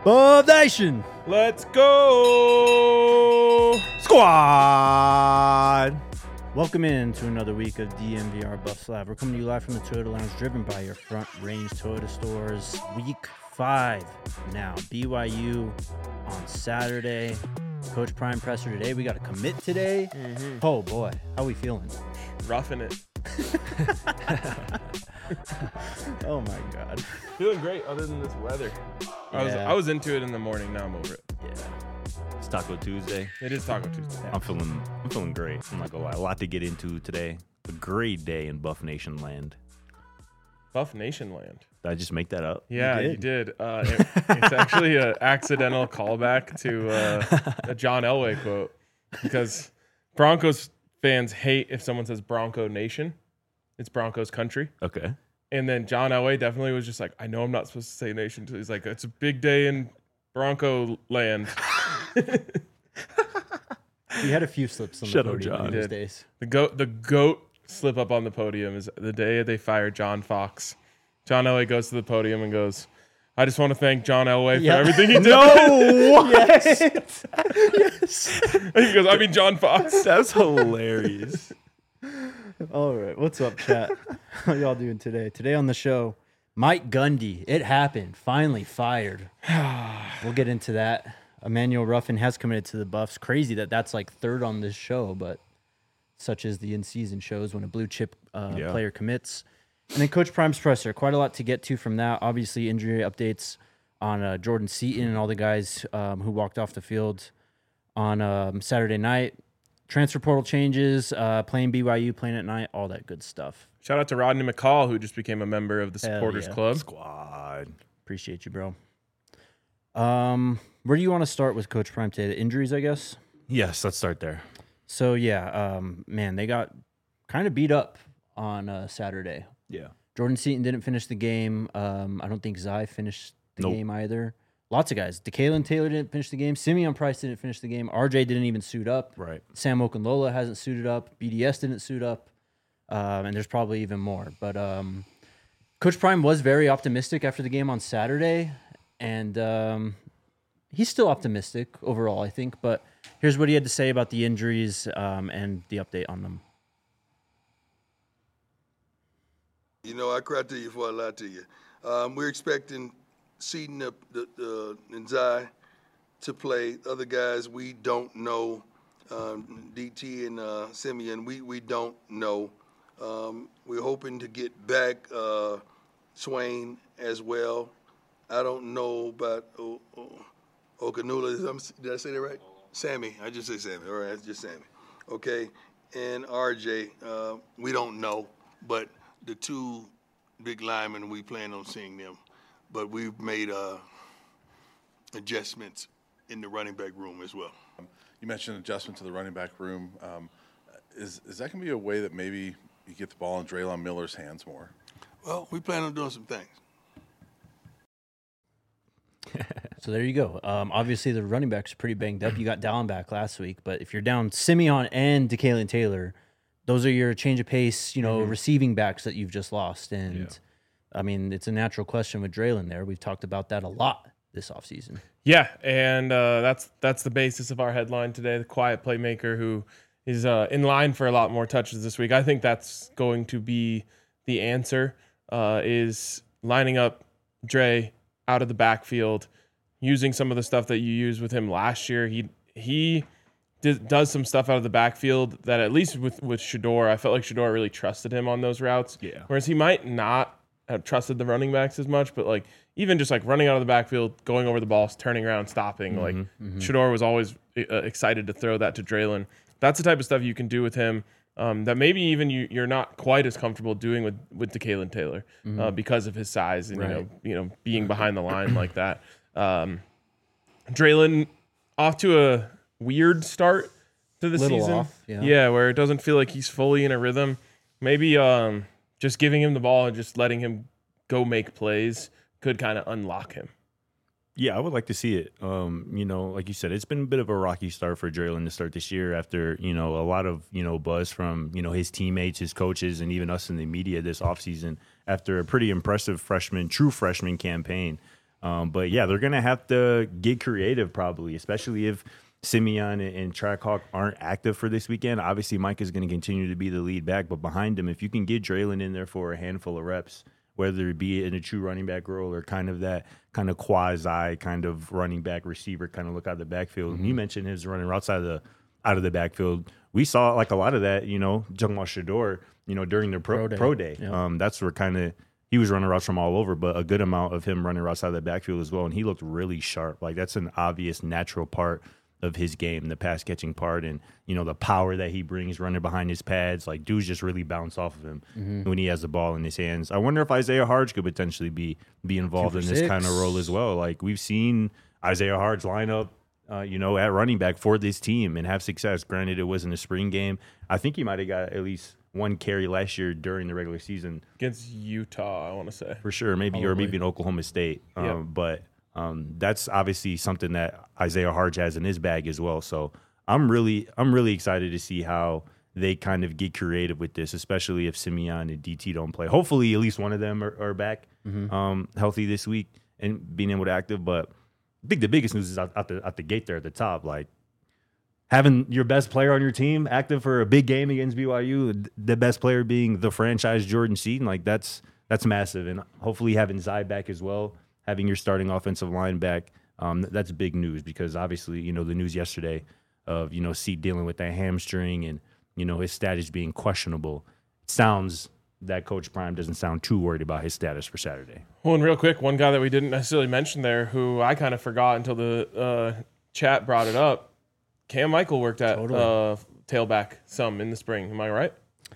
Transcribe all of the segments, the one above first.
Buff Nation Let's go! Squad! Welcome in to another week of DNVR Buff Slab. We're coming to you live from the Toyota Lounge, driven by your Front Range Toyota stores. Week 5 now. BYU on Saturday. Coach Prime presser today. We got a commit today. Oh boy, how we feeling? Roughing it. Oh my God. Feeling great other than this weather. I was into it in the morning. Now I'm over it. Yeah. It's Taco Tuesday. It is Taco Tuesday. I'm feeling great. I'm not gonna lie. A lot to get into today. A great day in Buff Nation land. Buff Nation land. Did I just make that up? Yeah, you did. It's actually an accidental callback to a John Elway quote, because Broncos fans hate if someone says Bronco Nation. It's Broncos country. Okay. And then John Elway definitely was just like, I know I'm not supposed to say nation. He's like, it's a big day in Bronco land. He had a few slips on Shut the up, podium John. these days. The goat slip up on the podium is the day they fired John Fox. John Elway goes to the podium and goes, I just want to thank John Elway for everything he did. No, what? Yes. He goes, I mean John Fox. That's hilarious. All right, what's up, chat? How y'all doing today? Today on the show, Mike Gundy. It happened. Finally fired. We'll get into that. Emmanuel Ruffin has committed to the Buffs. Crazy that that's like third on this show, but such as the in-season shows when a blue chip player commits. And then Coach Prime's presser. Quite a lot to get to from that. Obviously, injury updates on Jordan Seaton and all the guys who walked off the field on Saturday night. Transfer portal changes, playing BYU, playing at night, all that good stuff. Shout out to Rodney McCall, who just became a member of the Supporters Club. Squad. Appreciate you, bro. Where do you want to start with Coach Prime today? The injuries, I guess? Yes, let's start there. So, yeah, man, they got kind of beat up on Saturday. Yeah. Jordan Seaton didn't finish the game. I don't think Zai finished the game either. Lots of guys. DeKalen Taylor didn't finish the game. Simeon Price didn't finish the game. RJ didn't even suit up. Right. Sam Okunlola hasn't suited up. BDS didn't suit up. And there's probably even more. But Coach Prime was very optimistic after the game on Saturday. And he's still optimistic overall, I think. But here's what he had to say about the injuries and the update on them. You know, I cried to you before I lied to you. We're expecting Seaton and Zai to play. Other guys, we don't know. DT and Simeon, we don't know. We're hoping to get back Swain as well. I don't know about Okunlola. Did I say that right? Sammy. I just say Sammy. All right, it's just Sammy. Okay. And RJ, we don't know. But the two big linemen, we plan on seeing them. But we've made adjustments in the running back room as well. You mentioned adjustment to the running back room. Is that going to be a way that maybe you get the ball in Draylon Miller's hands more? Well, we plan on doing some things. So there you go. Obviously, the running backs are pretty banged up. You got Dallin back last week, but if you're down Simeon and DeKalen Taylor, those are your change of pace, receiving backs that you've just lost. And I mean, it's a natural question with Draylon there. We've talked about that a lot this offseason. Yeah, and that's the basis of our headline today, the quiet playmaker who is in line for a lot more touches this week. I think that's going to be the answer, is lining up Dre out of the backfield, using some of the stuff that you used with him last year. He does some stuff out of the backfield that, at least with Shedeur, I felt like Shedeur really trusted him on those routes. Yeah. Whereas he might not have trusted the running backs as much, but like even just like running out of the backfield, going over the ball, turning around, stopping, Shedeur was always excited to throw that to Draylon. That's the type of stuff you can do with him that maybe even you're not quite as comfortable doing with DeKalen Taylor because of his size and being behind the line like that. Draylon off to a weird start to the season. Off, where it doesn't feel like he's fully in a rhythm. Maybe just giving him the ball and just letting him go make plays could kind of unlock him. Yeah, I would like to see it. Like you said, it's been a bit of a rocky start for Draylon to start this year after, a lot of, buzz from, his teammates, his coaches, and even us in the media this offseason after a pretty impressive true freshman campaign. But yeah, they're gonna have to get creative probably, especially if Simeon and Trackhawk aren't active for this weekend. Obviously, Mike is going to continue to be the lead back, but behind him, if you can get Draylon in there for a handful of reps, whether it be in a true running back role or kind of that kind of quasi kind of running back receiver kind of look out of the backfield. And you mentioned his running routes out of the backfield. We saw like a lot of that, Jamal Shador, during their pro day. Yeah. That's where kind of he was running routes from all over, but a good amount of him running routes out of the backfield as well. And he looked really sharp. Like that's an obvious natural part of his game, the pass catching part, and the power that he brings running behind his pads. Like dudes just really bounce off of him when he has the ball in his hands. I wonder if Isaiah Harge could potentially be involved in this kind of role as well. Like we've seen Isaiah Harge line up, at running back for this team and have success. Granted, it wasn't a spring game. I think he might have got at least one carry last year during the regular season against Utah, I want to say. For sure, maybe in Oklahoma State. But that's obviously something that Isaiah Harge has in his bag as well. So I'm really excited to see how they kind of get creative with this, especially if Simeon and DT don't play. Hopefully, at least one of them are back healthy this week and being able to active. But I think the biggest news is out the gate there at the top, like having your best player on your team active for a big game against BYU, the best player being the franchise Jordan Seaton, like that's massive. And hopefully having Zai back as well, having your starting offensive line back, that's big news because obviously, the news yesterday of, Seat dealing with that hamstring and, his status being questionable. It sounds that Coach Prime doesn't sound too worried about his status for Saturday. Well, and real quick, one guy that we didn't necessarily mention there who I kind of forgot until the chat brought it up, Cam Michael worked at tailback some in the spring. Am I right?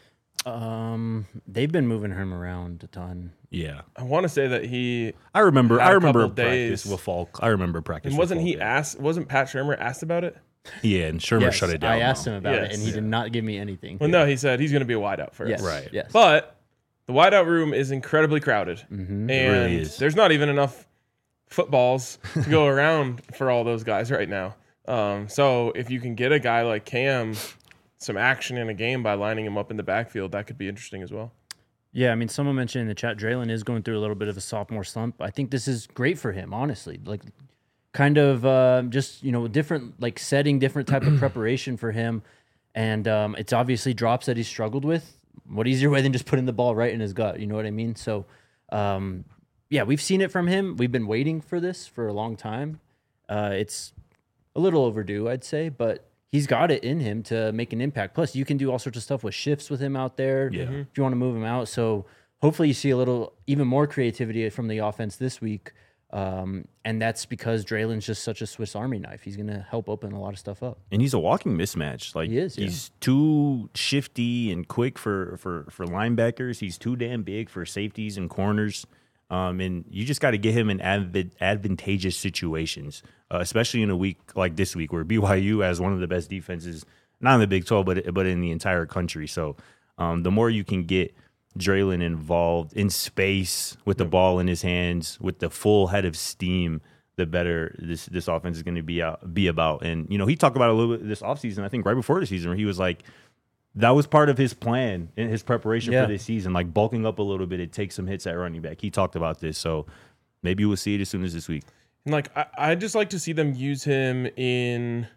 They've been moving him around a ton. Yeah, I want to say that I remember couple practice days. with Falk. I remember practice. And wasn't with he Falk, asked? Wasn't Pat Shermer asked about it? Yeah, and Shermer shut it down. I asked him about it, Yes. and he did not give me anything. Well, no, he said he's going to be a wideout first. Yes, Right. Yes, But the wideout room is incredibly crowded, and It really is. there's not even enough footballs to go around for all those guys right now. So if you can get a guy like Cam some action in a game by lining him up in the backfield, that could be interesting as well. Yeah, I mean, someone mentioned in the chat, Draylon is going through a little bit of a sophomore slump. I think this is great for him, honestly. Like, kind of just, different, like setting different type of preparation for him. And it's obviously drops that he's struggled with. What easier way than just putting the ball right in his gut? You know what I mean? So, yeah, we've seen it from him. We've been waiting for this for a long time. It's a little overdue, I'd say, but he's got it in him to make an impact. Plus, you can do all sorts of stuff with shifts with him out there if you want to move him out. So hopefully you see a little, even more creativity from the offense this week. And that's because Draylon's just such a Swiss Army knife. He's going to help open a lot of stuff up. And he's a walking mismatch. Like He is, yeah. He's too shifty and quick for linebackers. He's too damn big for safeties and corners. And you just got to get him in advantageous situations, especially in a week like this week where BYU has one of the best defenses, not in the Big 12, but in the entire country. So the more you can get Draylon involved in space with the ball in his hands, with the full head of steam, the better this offense is going to be about. And, he talked about it a little bit this offseason, I think right before the season, where he was like, that was part of his plan in his preparation for this season, like bulking up a little bit. It takes some hits at running back. He talked about this. So maybe we'll see it as soon as this week. And like, I just like to see them use him in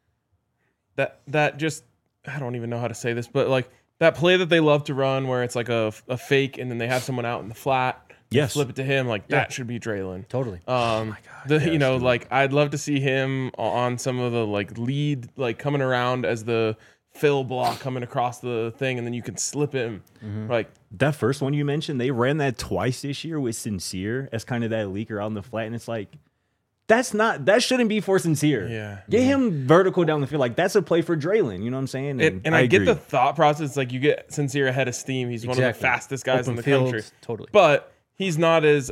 that just, I don't even know how to say this, but like that play that they love to run where it's like a fake and then they have someone out in the flat. Yes. Flip it to him. Like that should be Draylon. Totally. Like I'd love to see him on some of the like lead, like coming around as the fill block coming across the thing, and then you can slip him. Like That first one you mentioned, they ran that twice this year with Sincere as kind of that leaker out in the flat, and it's like, that shouldn't be for Sincere. Yeah. Get him vertical down the field. Like, that's a play for Draylon. You know what I'm saying? and I get agree. the thought process. Like you get Sincere ahead of steam. He's one of the fastest guys Open in the field, country. Totally. But he's not as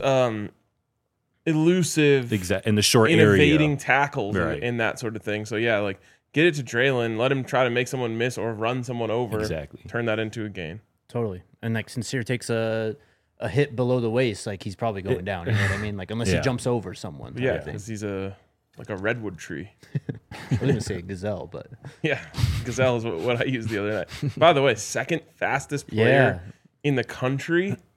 elusive, in the short area. innovating tackles Right. and that sort of thing. So yeah, like get it to Draylon, let him try to make someone miss or run someone over. Exactly. Turn that into a gain. Totally. And like Sincere takes a hit below the waist, like he's probably going down. You know what I mean? Like unless he Yeah. jumps over someone. type Yeah, of thing. because he's like a redwood tree. I was going to say a gazelle, but Yeah, Gazelle is what I used the other night. By the way, second fastest player in the country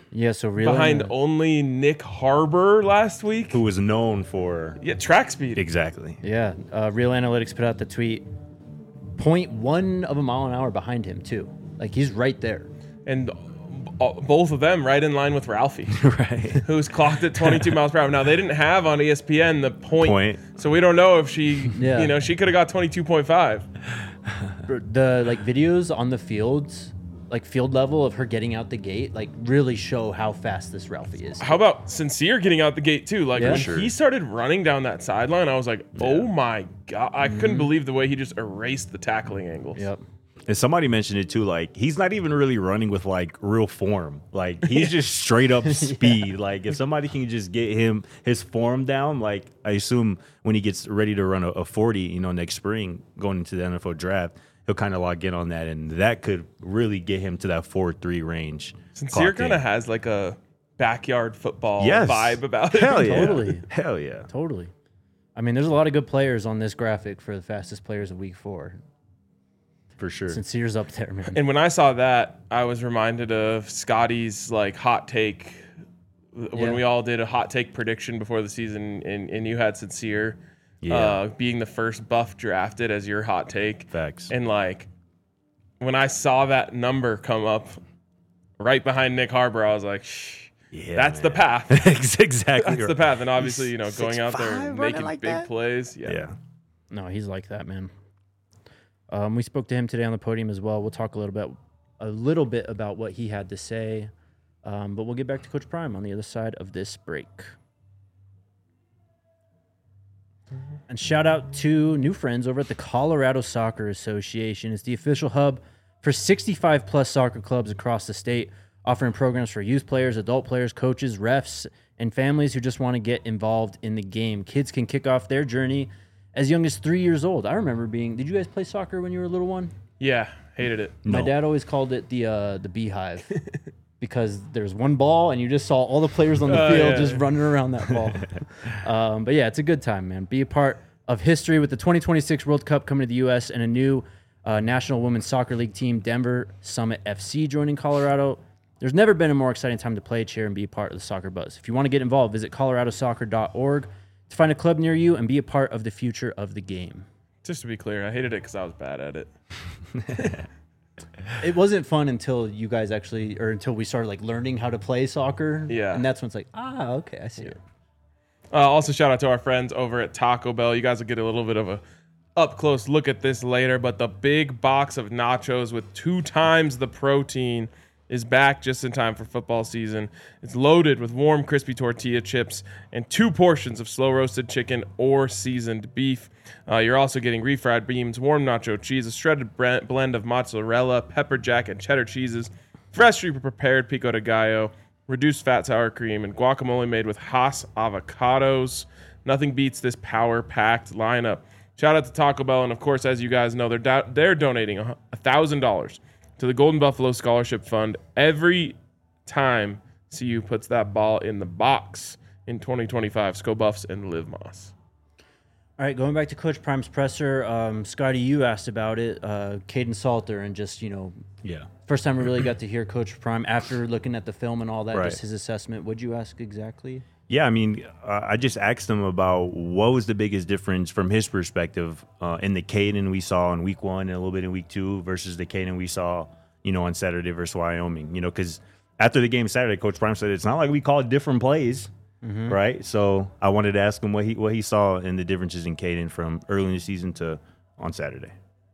Yeah, so really behind only Nick Harbor last week. Who was known for Track speed. exactly. Yeah, Real Analytics put out the tweet. 0.1 of a mile an hour behind him too. Like he's right there. And both of them right in line with Ralphie, Right. who's clocked at 22 miles per hour. Now they didn't have on ESPN the point. So we don't know if she, she could have got 22.5. The like videos on the fields, like field level of her getting out the gate, like really show how fast this Ralphie is. How about Sincere getting out the gate too? Like when he started running down that sideline, I was like, oh my God. I couldn't believe the way he just erased the tackling angles. Yep. And somebody mentioned it too, like he's not even really running with like real form. Like he's just straight up speed. Like if somebody can just get his form down, like I assume when he gets ready to run a 40, next spring going into the NFL draft, he'll kind of log in on that, and that could really get him to that 4.3 range. Sincere kind of has like a backyard football vibe about it. Hell yeah. Totally. Hell yeah. Totally. I mean, there's a lot of good players on this graphic for the fastest players of week 4. For sure. Sincere's up there, man. And when I saw that, I was reminded of Scotty's like hot take when we all did a hot take prediction before the season, and you had Sincere being the first buff drafted as your hot take. Facts. And like when I saw that number come up right behind Nick Harbor, I was like, that's the path. Exactly. That's the path. And obviously, going out there and making like big that? plays. Yeah. No, he's like that, man. We spoke to him today on the podium as well. We'll talk a little bit about what he had to say, but we'll get back to Coach Prime on the other side of this break. And shout out to new friends over at the Colorado Soccer Association. It's the official hub for 65 plus soccer clubs across the state, offering programs for youth players, adult players, coaches, refs, and families who just want to get involved in the game. Kids can kick off their journey as young as 3 years old. I remember did you guys play soccer when you were a little one? Yeah, hated it. My dad always called it the beehive because there's one ball and you just saw all the players on the field just running around that ball. But yeah, it's a good time, man. Be a part of history with the 2026 World Cup coming to the U.S. and a new National Women's Soccer League team, Denver Summit FC, joining Colorado. There's never been a more exciting time to play, cheer, and be a part of the soccer buzz. If you want to get involved, visit coloradosoccer.org to find a club near you and be a part of the future of the game. Just to be clear, I hated it because I was bad at it. It wasn't fun until you guys until we started like learning how to play soccer. Yeah. And that's when it's like, okay, I see it. Also, shout out to our friends over at Taco Bell. You guys will get a little bit of a up-close look at this later, but the big box of nachos with 2 times the protein is back just in time for football season. It's loaded with warm, crispy tortilla chips and 2 portions of slow-roasted chicken or seasoned beef. You're also getting refried beans, warm nacho cheese, a shredded blend of mozzarella, pepper jack, and cheddar cheeses, freshly prepared pico de gallo, reduced fat sour cream, and guacamole made with Hass avocados. Nothing beats this power-packed lineup. Shout out to Taco Bell, and of course, as you guys know, they're donating $1,000 to the Golden Buffalo Scholarship Fund every time CU puts that ball in the box in 2025. Sco Buffs and Liv Moss. All right, going back to Coach Prime's presser, Scotty, you asked about it, Caden Salter, and just, first time we really got to hear Coach Prime after looking at the film and all that, just his assessment. What'd you ask exactly? Yeah, I mean, I just asked him about what was the biggest difference from his perspective in the Caden we saw in week 1 and a little bit in week 2 versus the Caden we saw, on Saturday versus Wyoming. Because after the game Saturday, Coach Prime said it's not like we called different plays, right? So I wanted to ask him what he saw in the differences in Caden from early in the season to on Saturday.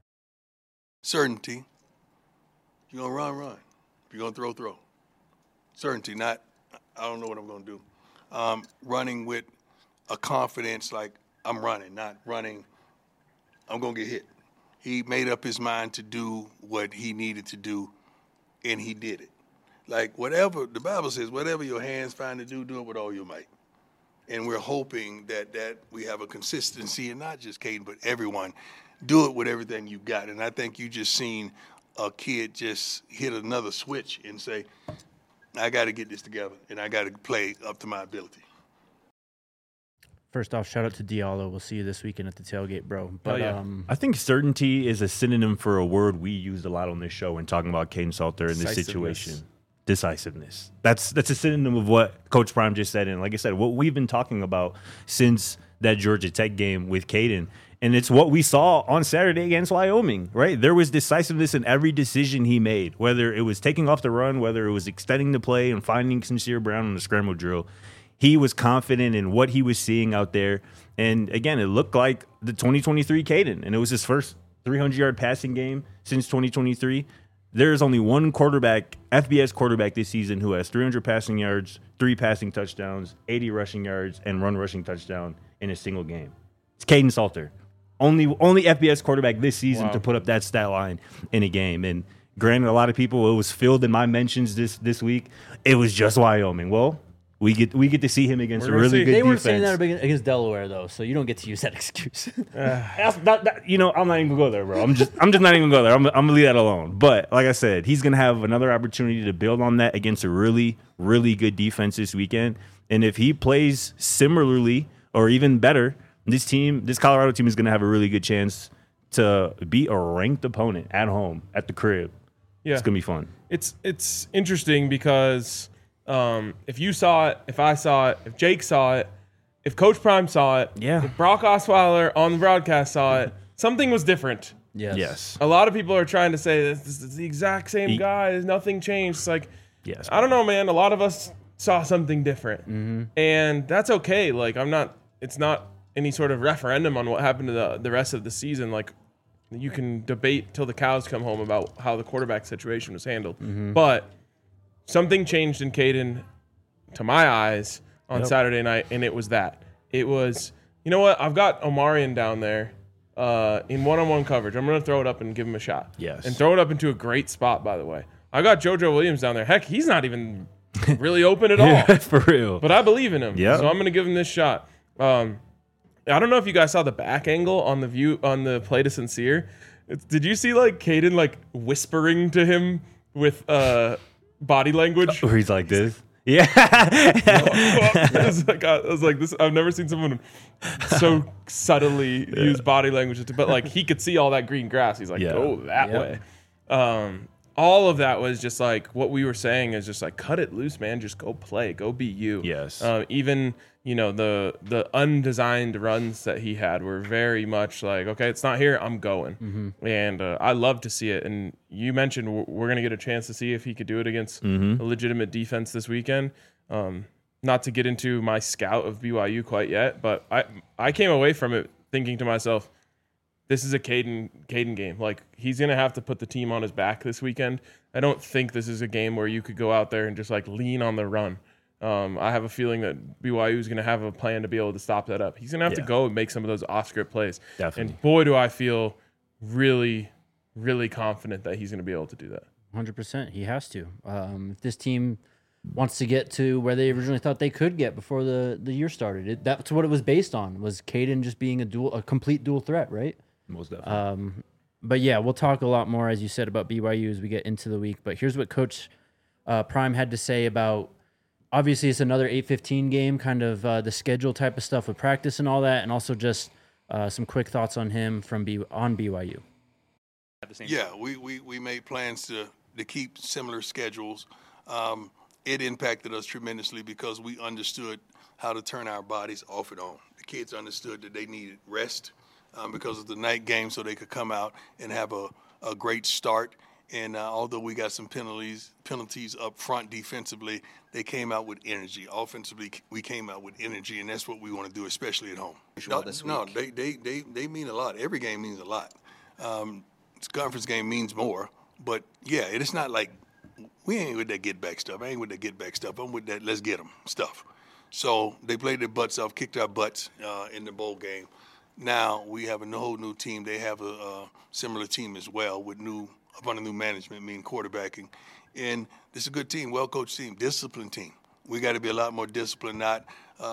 Certainty. If you're going to run. If you're going to throw. Certainty, not I don't know what I'm going to do. Running with a confidence like I'm running, not running, I'm going to get hit. He made up his mind to do what he needed to do, and he did it. Like whatever, the Bible says, whatever your hands find to do it with all your might. And we're hoping that we have a consistency, and not just Caden, but everyone. Do it with everything you got. And I think you just seen a kid just hit another switch and say, I got to get this together, and I got to play up to my ability. First off, shout out to Diallo. We'll see you this weekend at the tailgate, bro. But I think certainty is a synonym for a word we used a lot on this show when talking about Caden Salter in this situation. decisiveness. That's a synonym of what Coach Prime just said. And like I said, what we've been talking about since that Georgia Tech game with Caden. And it's what we saw on Saturday against Wyoming, right? There was decisiveness in every decision he made, whether it was taking off the run, whether it was extending the play and finding Sincere Brown on the scramble drill. He was confident in what he was seeing out there. And again, it looked like the 2023 Caden, and it was his first 300-yard passing game since 2023. There's only one quarterback, FBS quarterback this season, who has 300 passing yards, 3 passing touchdowns, 80 rushing yards, and 1 rushing touchdown in a single game. It's Caden Salter. Only FBS quarterback this season to put up that stat line in a game. And granted, a lot of people, it was filled in my mentions this week. It was just Wyoming. Well, we get to see him against a really good defense. They weren't saying that against Delaware, though, so you don't get to use that excuse. I'm not even gonna go there, bro. I'm just not even gonna go there. I'm gonna leave that alone. But like I said, he's gonna have another opportunity to build on that against a really, really good defense this weekend. And if he plays similarly or even better, this Colorado team is gonna have a really good chance to beat a ranked opponent at home at the crib. Yeah, it's gonna be fun. It's interesting because. If you saw it, if I saw it, if Jake saw it, if Coach Prime saw it, if Brock Osweiler on the broadcast saw it, something was different. Yes. A lot of people are trying to say this is the exact same guy. There's nothing changed. It's like, yes, I don't know, man. A lot of us saw something different, and that's okay. Like, it's not any sort of referendum on what happened to the rest of the season. Like, you can debate till the cows come home about how the quarterback situation was handled, but. Something changed in Caden, to my eyes, on Saturday night, and it was that. It was, you know what? I've got Omarion down there in one-on-one coverage. I'm going to throw it up and give him a shot. Yes. And throw it up into a great spot, by the way. I got JoJo Williams down there. Heck, he's not even really open at all. For real. But I believe in him. Yep. So I'm going to give him this shot. I don't know if you guys saw the back angle on the play to Sincere. Did you see, like, Caden, like, whispering to him with body language? Where he's like this. Yeah. I was like, this. I've never seen someone so subtly use body language. But like, he could see all that green grass. He's like, go that way. All of that was just like what we were saying is just like, cut it loose, man. Just go play. Go be you. Yes. Even the undesigned runs that he had were very much like, okay, it's not here. I'm going. And I love to see it. And you mentioned we're going to get a chance to see if he could do it against a legitimate defense this weekend. Not to get into my scout of BYU quite yet, but I came away from it thinking to myself, this is a Caden game. Like, he's going to have to put the team on his back this weekend. I don't think this is a game where you could go out there and just like lean on the run. I have a feeling that BYU is going to have a plan to be able to stop that up. He's going to have to go and make some of those off-script plays. Definitely. And boy, do I feel really, really confident that he's going to be able to do that. 100%. He has to. If this team wants to get to where they originally thought they could get before the year started, that's what it was based on, was Caden just being a complete dual threat, right? Most definitely. But yeah, we'll talk a lot more, as you said, about BYU as we get into the week. But here's what Coach Prime had to say about, obviously it's another 8:15 game, kind of the schedule type of stuff with practice and all that, and also just some quick thoughts on him on BYU. Yeah, we made plans to keep similar schedules. It impacted us tremendously because we understood how to turn our bodies off and on. The kids understood that they needed rest because of the night game, so they could come out and have a great start. And although we got some penalties up front defensively, they came out with energy. Offensively, we came out with energy, and that's what we want to do, especially at home. No, they mean a lot. Every game means a lot. This conference game means more. But, yeah, it's not like we ain't with that get-back stuff. I ain't with that get-back stuff. I'm with that let's get them stuff. So they played their butts off, kicked our butts in the bowl game. Now we have a whole new team. They have a similar team as well with under new management, meaning quarterbacking. And this is a good team, well-coached team, disciplined team. We got to be a lot more disciplined, not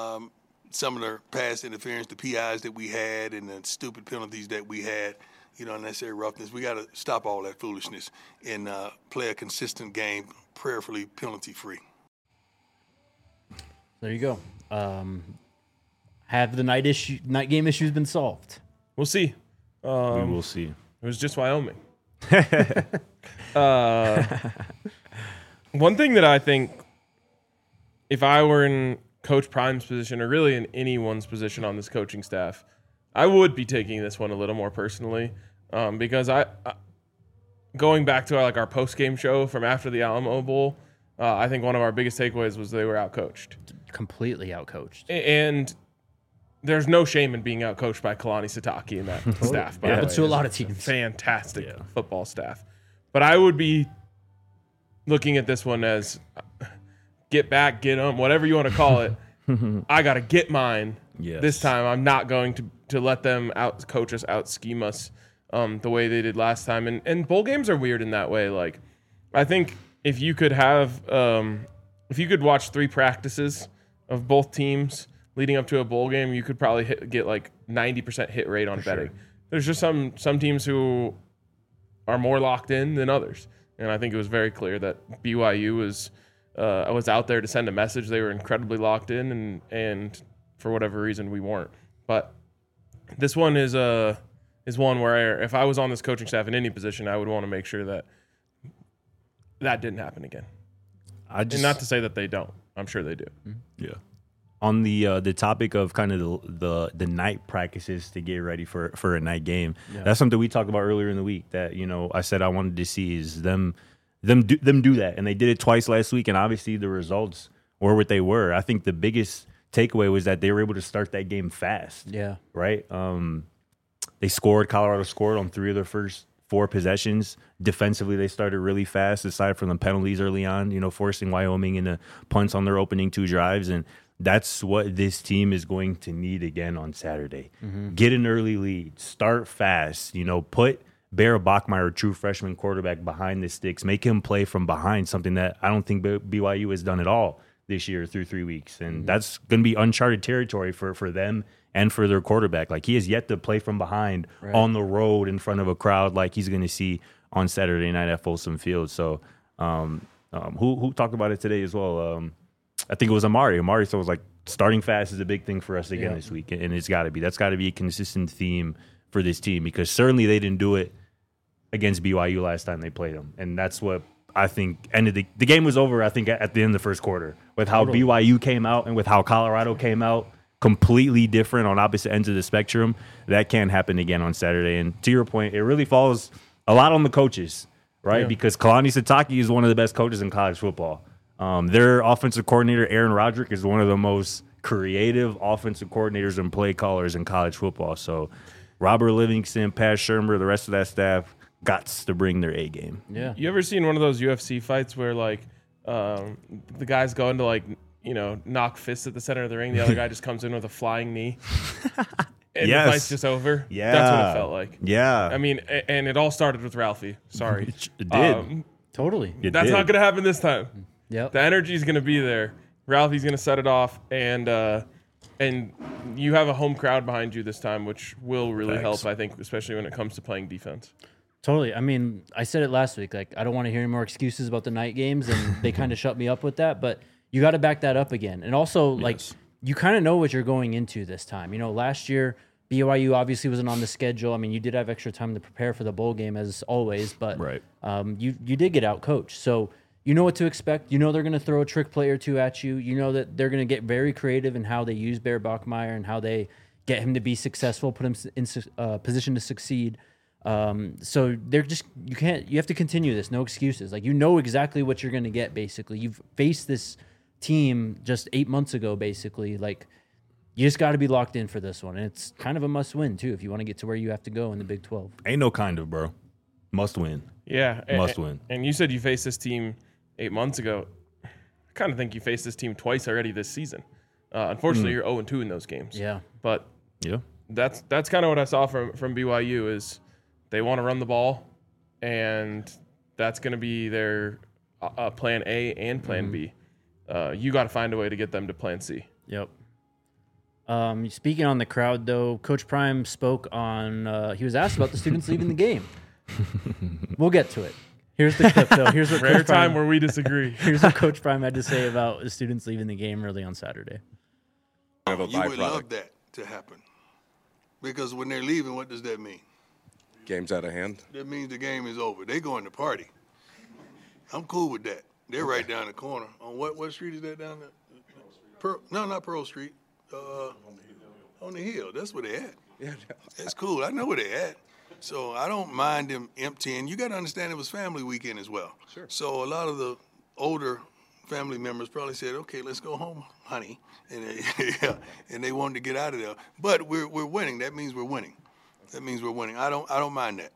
some of the pass interference, the PIs that we had and the stupid penalties that we had, unnecessary roughness. We got to stop all that foolishness and play a consistent game, prayerfully penalty-free. There you go. Have the night game issues been solved? We'll see. We will see. It was just Wyoming. One thing that I think, if I were in Coach Prime's position, or really in anyone's position on this coaching staff, I would be taking this one a little more personally, because I going back to our post-game show from after the Alamo Bowl, I think one of our biggest takeaways was they were outcoached. Completely outcoached. And there's no shame in being outcoached by Kalani Sitake and that staff. By the way. Happens to a lot of It's teams. Fantastic football staff. But I would be looking at this one as get back, get them, whatever you want to call it. I got to get mine this time. I'm not going to let them out-coach us, out-scheme us the way they did last time. And bowl games are weird in that way. Like, I think if you could have if you could watch 3 practices of both teams leading up to a bowl game, you could probably get like 90% hit rate on betting. Sure. There's just some teams who are more locked in than others. And I think it was very clear that BYU was out there to send a message. They were incredibly locked in, and for whatever reason, we weren't. But this one is one where if I was on this coaching staff in any position, I would want to make sure that didn't happen again. And not to say that they don't. I'm sure they do. Yeah. On the topic of kind of the night practices to get ready for a night game, that's something we talked about earlier in the week that, I said I wanted to see is them do that. And they did it twice last week, and obviously the results were what they were. I think the biggest takeaway was that they were able to start that game fast. Yeah. Right? Colorado scored on 3 of their first 4 possessions. Defensively, they started really fast, aside from the penalties early on, forcing Wyoming into punts on their opening 2 drives. And that's what this team is going to need again on Saturday. Mm-hmm. Get an early lead, start fast, put Bear Bachmeier, true freshman quarterback, behind the sticks, make him play from behind, something that I don't think BYU has done at all this year through 3 weeks. And that's going to be uncharted territory for them and for their quarterback. Like, he has yet to play from behind on the road in front of a crowd like he's going to see on Saturday night at Folsom Field. So who talked about it today as well? I think it was Amari. Amari was like, starting fast is a big thing for us again this week, and it's got to be. That's got to be a consistent theme for this team, because certainly they didn't do it against BYU last time they played them, and that's what I think ended the game was over, I think, at the end of the first quarter, with how BYU came out and with how Colorado came out, completely different on opposite ends of the spectrum. That can't happen again on Saturday. And to your point, it really falls a lot on the coaches, right? Yeah. Because Kalani Sitake is one of the best coaches in college football. Their offensive coordinator, Aaron Roderick, is one of the most creative offensive coordinators and play callers in college football. So Robert Livingston, Pat Shurmur, the rest of that staff gots to bring their A game. Yeah. You ever seen one of those UFC fights where the guy's going to knock fists at the center of the ring, the other guy just comes in with a flying knee, and the fight's just over? Yeah. That's what it felt like. Yeah. I mean, and it all started with Ralphie. Sorry. It did. Totally. That's not going to happen this time. Yep. The energy's going to be there. Ralphie's going to set it off, and you have a home crowd behind you this time, which will really help, I think, especially when it comes to playing defense. Totally. I mean, I said it last week. Like, I don't want to hear any more excuses about the night games, and they kind of shut me up with that. But you got to back that up again. And also, you kind of know what you're going into this time. Last year, BYU obviously wasn't on the schedule. I mean, you did have extra time to prepare for the bowl game, as always. But you did get out coached. So you know what to expect. You know they're going to throw a trick play or two at you. You know that they're going to get very creative in how they use Bear Bachmeier and how they get him to be successful, put him in position to succeed. So they're just you have to continue this. No excuses. Like, you know exactly what you're going to get. Basically, you've faced this team just 8 months ago. Basically, like, you just got to be locked in for this one, and it's kind of a must win too if you want to get to where you have to go in the Big 12. Ain't no kind of, bro. Must win. Yeah, must win. And you said you faced this team 8 months ago. I kind of think you faced this team twice already this season. Unfortunately, you're 0-2 in those games. Yeah, but that's kind of what I saw from BYU is they want to run the ball, and that's going to be their plan A and plan B. You got to find a way to get them to plan C. Yep. Speaking on the crowd, though, Coach Prime spoke on. He was asked about the students leaving the game. We'll get to it. Here's the clip, though. Here's what rare time where we disagree. Here's what Coach Prime had to say about the students leaving the game early on Saturday. You would love that to happen, because when they're leaving, what does that mean? Game's out of hand. That means the game is over. They're going to party. I'm cool with that. They're right down the corner. On what street is that down there? No, not Pearl Street. On the hill. That's where they at. Yeah, that's cool. I know where they at. So I don't mind them emptying. You got to understand it was family weekend as well. Sure. So a lot of the older family members probably said, "Okay, let's go home, honey," and they wanted to get out of there. But we're winning. That means we're winning. I don't mind that.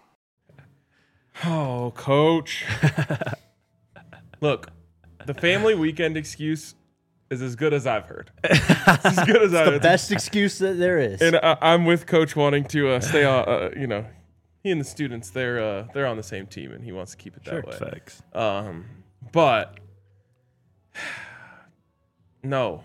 Oh, Coach. Look, the family weekend excuse is as good as I've heard. It's as good as I've heard. The best excuse that there is. And I'm with Coach wanting to stay on. He and the students, they're on the same team, and he wants to keep it that way. Facts. But no.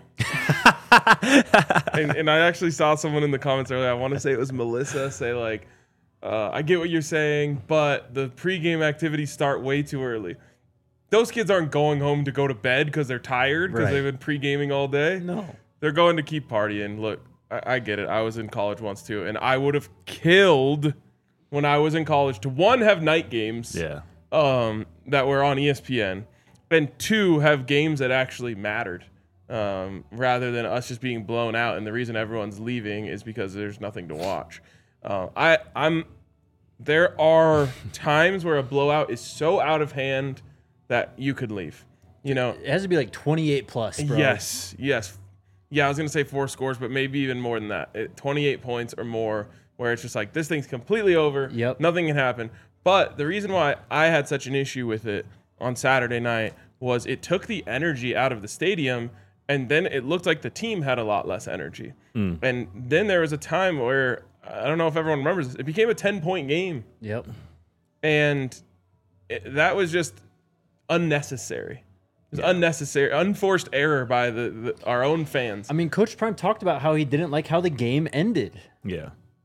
and I actually saw someone in the comments earlier. I want to say it was Melissa say like, I get what you're saying, but the pregame activities start way too early. Those kids aren't going home to go to bed because they're tired because they've been pre-gaming all day. No. They're going to keep partying. Look, I get it. I was in college once too, and I would have killed when I was in college to, one, have night games that were on ESPN, and two, have games that actually mattered rather than us just being blown out. And the reason everyone's leaving is because there's nothing to watch. There are times where a blowout is so out of hand that you could leave. You know, it has to be like 28 plus, bro. Yes. Yeah, I was going to say 4 scores, but maybe even more than that. 28 points or more, where it's just like, this thing's completely over. Yep. Nothing can happen. But the reason why I had such an issue with it on Saturday night was it took the energy out of the stadium, and then it looked like the team had a lot less energy. And then there was a time where, I don't know if everyone remembers this, it became a 10-point game. Yep. And that was just unnecessary. It was unnecessary, unforced error by our own fans. I mean, Coach Prime talked about how he didn't like how the game ended. Yeah.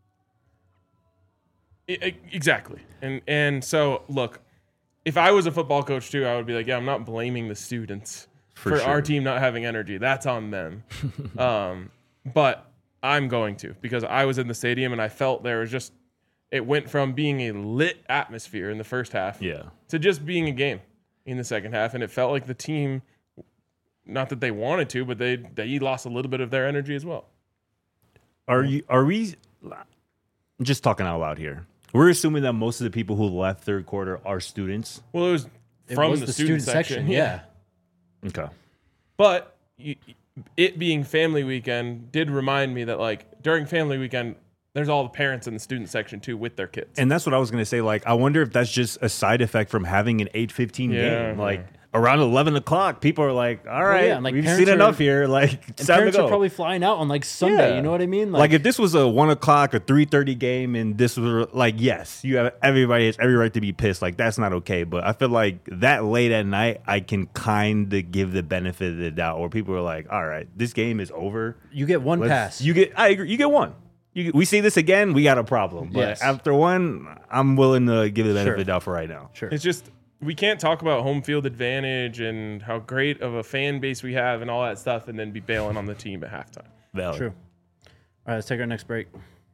Exactly. And so, look, if I was a football coach too, I would be like, yeah, I'm not blaming the students for our team not having energy. That's on them. But I'm going to, because I was in the stadium and I felt there was just, it went from being a lit atmosphere in the first half to just being a game in the second half. And it felt like the team, not that they wanted to, but they lost a little bit of their energy as well. Are we just talking out loud here? We're assuming that most of the people who left third quarter are students. Well, it was from the student section. Yeah. Okay. But it being family weekend did remind me that, like, during family weekend, there's all the parents in the student section too with their kids. And that's what I was going to say. Like, I wonder if that's just a side effect from having an 8:15 game. Like, around 11 o'clock, people are like, all right, like, we've seen enough here. Like, it's time to parents go. are probably flying out on like Sunday. You know what I mean? Like if this was a 1 o'clock or 3:30 game and this was like, yes, you have everybody has every right to be pissed. Like, that's not okay. But I feel like that late at night, I can kind of give the benefit of the doubt, where people are like, all right, this game is over. You get one pass. I agree. You get one. We see this again, we got a problem. But after one, I'm willing to give the benefit of the doubt for right now. Sure. It's just, we can't talk about home field advantage and how great of a fan base we have and all that stuff and then be bailing on the team at halftime. Valid. True. All right, let's take our next break.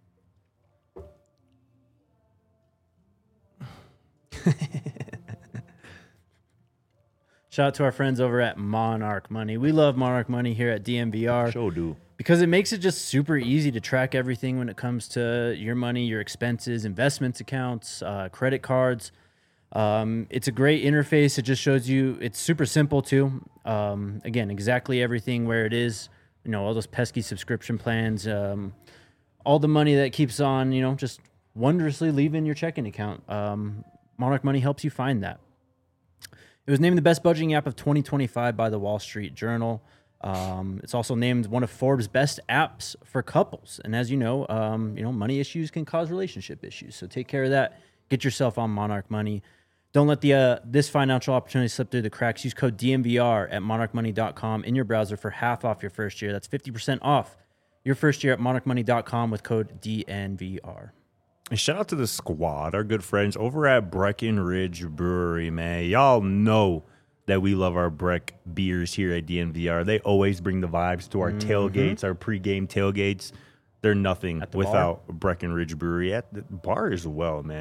Shout out to our friends over at Monarch Money. We love Monarch Money here at DNVR. Sure do. Because it makes it just super easy to track everything when it comes to your money, your expenses, investments accounts, credit cards. It's a great interface. It just shows you, it's super simple too. Again, exactly everything where it is, all those pesky subscription plans, all the money that keeps on, just wondrously leaving your checking account. Monarch Money helps you find that. It was named the best budgeting app of 2025 by the Wall Street Journal. It's also named one of Forbes' best apps for couples. And as you know, money issues can cause relationship issues. So take care of that. Get yourself on Monarch Money. Don't let this financial opportunity slip through the cracks. Use code DNVR at monarchmoney.com in your browser for half off your first year. That's 50% off your first year at monarchmoney.com with code DNVR. And shout out to the squad, our good friends over at Breckenridge Brewery, man. Y'all know that we love our Breck beers here at DNVR. They always bring the vibes to our tailgates, our pregame tailgates. They're nothing without Breckenridge Brewery. At the bar as well, man.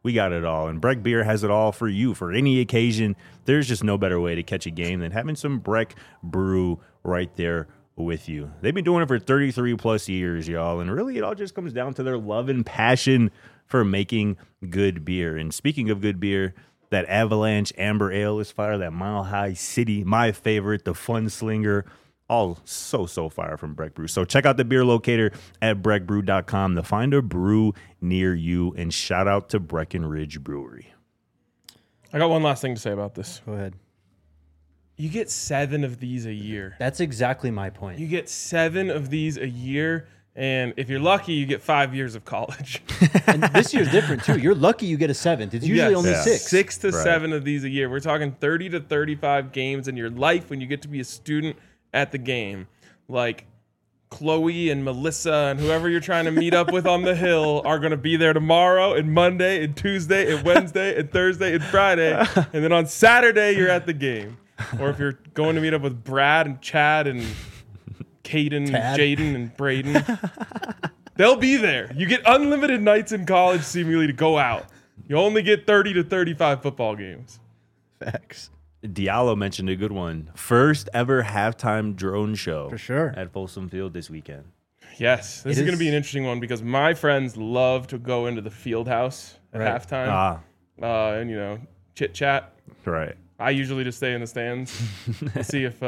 we got it all. And Breck Beer has it all for you. For any occasion, there's just no better way to catch a game than having some Breck Brew right there with you. They've been doing it for 33 plus years, y'all. And really, it all just comes down to their love and passion for making good beer. And speaking of good beer, that Avalanche Amber Ale is fire. That Mile High City, my favorite, the Fun Slinger, all so fire from Breck Brew. So check out the beer locator at breckbrew.com to find a brew near you. And shout out to Breckenridge Brewery. I got one last thing to say about this. Go ahead. You get 7 of these a year. That's exactly my point. You get 7 of these a year, and if you're lucky, you get 5 years of college. And this year's different too. You're lucky you get a 7th. It's usually only 6. 6 to Right. 7 of these a year. We're talking 30 to 35 games in your life when you get to be a student at the game. Like Chloe and Melissa and whoever you're trying to meet up with on the hill are going to be there tomorrow and Monday and Tuesday and Wednesday and Thursday and Friday. And then on Saturday, you're at the game. Or if you're going to meet up with Brad and Chad and Caden, Tad. Jaden, and Braden, they'll be there. You get unlimited nights in college seemingly to go out. You only get 30 to 35 football games. Facts. Diallo mentioned a good one. First ever halftime drone show. For sure. At Folsom Field this weekend. Yes, this It is going to be is- an interesting one because my friends love to go into the field house at Right. halftime and, you know, chit chat. Right. I usually just stay in the stands. We'll see if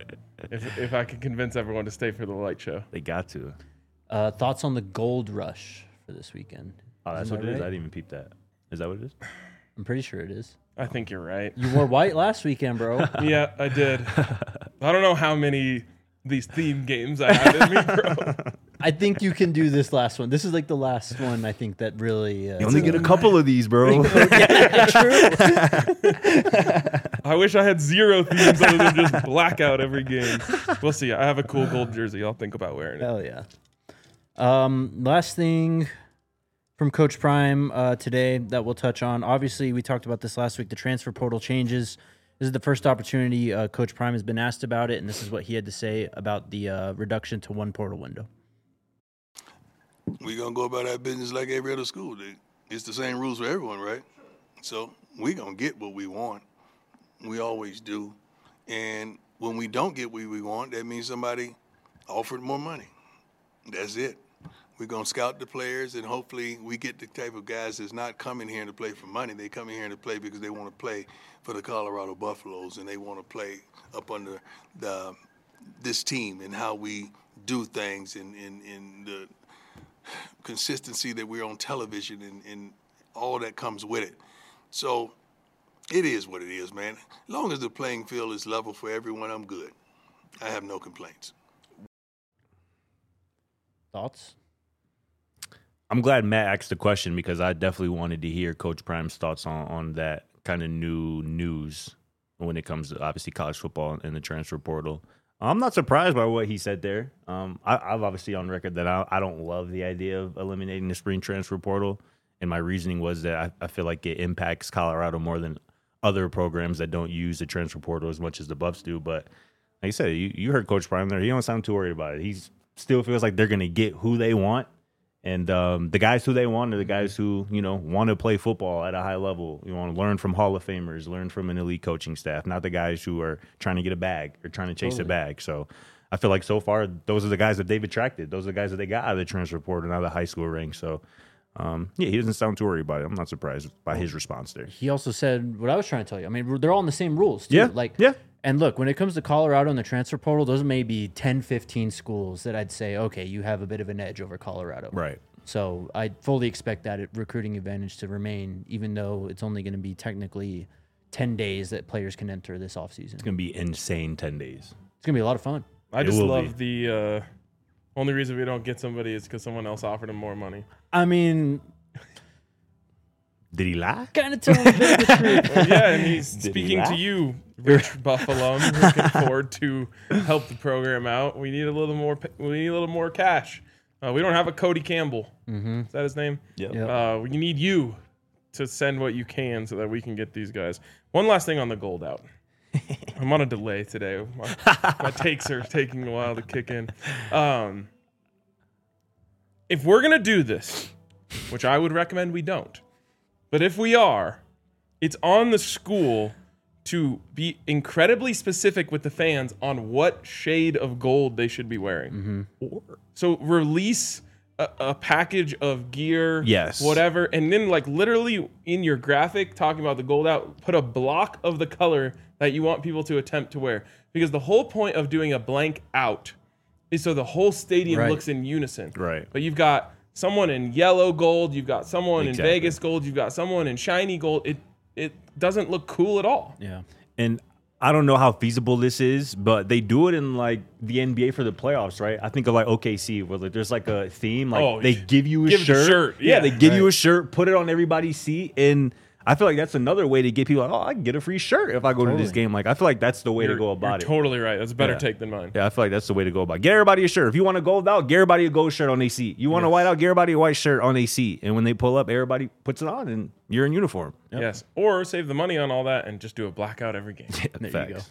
I can convince everyone to stay for the light show. They got to. Thoughts on the Gold Rush for this weekend? Oh, that's Isn't what that it is? I right? didn't even peep that. Is that what it is? I'm pretty sure it is. I think you're right. You wore white last weekend, bro. Yeah, I did. I don't know how many these theme games I have in me, bro. I think you can do this last one. This is like the last one I think that really. You only get a couple of these, bro. I wish I had 0 themes other than just blackout every game. We'll see. I have a cool gold jersey. I'll think about wearing it. Hell yeah. Last thing from Coach Prime today that we'll touch on. Obviously, we talked about this last week. The transfer portal changes. This is the first opportunity Coach Prime has been asked about it, and this is what he had to say about the reduction to 1 portal window. We're going to go about our business like every other school. It's the same rules for everyone, right? So we're going to get what we want. We always do. And when we don't get what we want, that means somebody offered more money. That's it. We're going to scout the players, and hopefully we get the type of guys that's not coming here to play for money. They come in here to play because they want to play for the Colorado Buffaloes, and they want to play up under this team and how we do things in the consistency that we're on television and all that comes with it. So it is what it is, man. As long as the playing field is level for everyone, I'm good. I have no complaints. Thoughts? I'm glad Matt asked the question because I definitely wanted to hear Coach Prime's thoughts on that kind of new news when it comes to obviously college football and the transfer portal. I'm not surprised by what he said there. I've obviously on record that I don't love the idea of eliminating the spring transfer portal. And my reasoning was that I feel like it impacts Colorado more than other programs that don't use the transfer portal as much as the Buffs do. But like I said, you heard Coach Prime there. He don't sound too worried about it. He still feels like they're going to get who they want. And the guys who they want are the guys who, want to play football at a high level. You want to learn from Hall of Famers, learn from an elite coaching staff, not the guys who are trying to get a bag or trying to chase a bag. So I feel like so far, those are the guys that they've attracted. Those are the guys that they got out of the transfer portal and out of the high school ranks. So, he doesn't sound too worried about it. I'm not surprised by his response there. He also said what I was trying to tell you. I mean, they're all in the same rules, too. Yeah. And look, when it comes to Colorado and the transfer portal, those may be 10, 15 schools that I'd say, okay, you have a bit of an edge over Colorado. Right. So I fully expect that recruiting advantage to remain, even though it's only going to be technically 10 days that players can enter this offseason. It's going to be insane 10 days. It's going to be a lot of fun. I It just will love the only reason we don't get somebody is because someone else offered him more money. I mean, Did he lie? kind of telling a bit of the truth. Yeah, and he's Did he speaking to laugh? you, Rich Buffalo, who can afford to help the program out. We need a little more. We need a little more cash. We don't have a Cody Campbell. Mm-hmm. Is that his name? Yep. Yep. We need you to send what you can so that we can get these guys. One last thing on the gold out. I'm on a delay today. My takes are taking a while to kick in. If we're going to do this, which I would recommend we don't, But if we are, it's on the school to be incredibly specific with the fans on what shade of gold they should be wearing. So release a package of gear, Yes. whatever, and then like literally in your graphic talking about the gold out, put a block of the color that you want people to attempt to wear. Because the whole point of doing a blank out is so the whole stadium Right. looks in unison. Right. But you've got someone in yellow gold, you've got someone Exactly. in Vegas gold, you've got someone in shiny gold. It doesn't look cool at all. Yeah. And I don't know how feasible this is, but they do it in like the NBA for the playoffs, right? I think of like OKC, where like there's like a theme, like Oh, they give you a give the shirt. shirt, Yeah, yeah. they give you a shirt, put it on everybody's seat, and I feel like that's another way to get people like, oh, I can get a free shirt if I go to this Totally. game. Like I feel like that's the way to go about You're it. totally right. That's a better Yeah. take than mine. Yeah, I feel like that's the way to go about it. Get everybody a shirt. If you want a gold out, get everybody a gold shirt on their seat. You want a white out, get everybody a white shirt on their seat. And when they pull up, everybody puts it on and you're in uniform. Yep. Yes. Or save the money on all that and just do a blackout every game. There Facts. you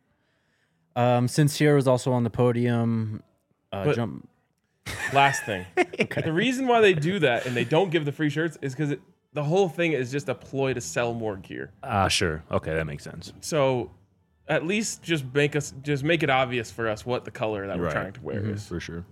go. Sincere was also on the podium. But- Jump. Last thing. The reason why they do that and they don't give the free shirts is because the whole thing is just a ploy to sell more gear. Sure. Okay, that makes sense. So at least just make it obvious for us what the color that we're Right. trying to wear is. For sure.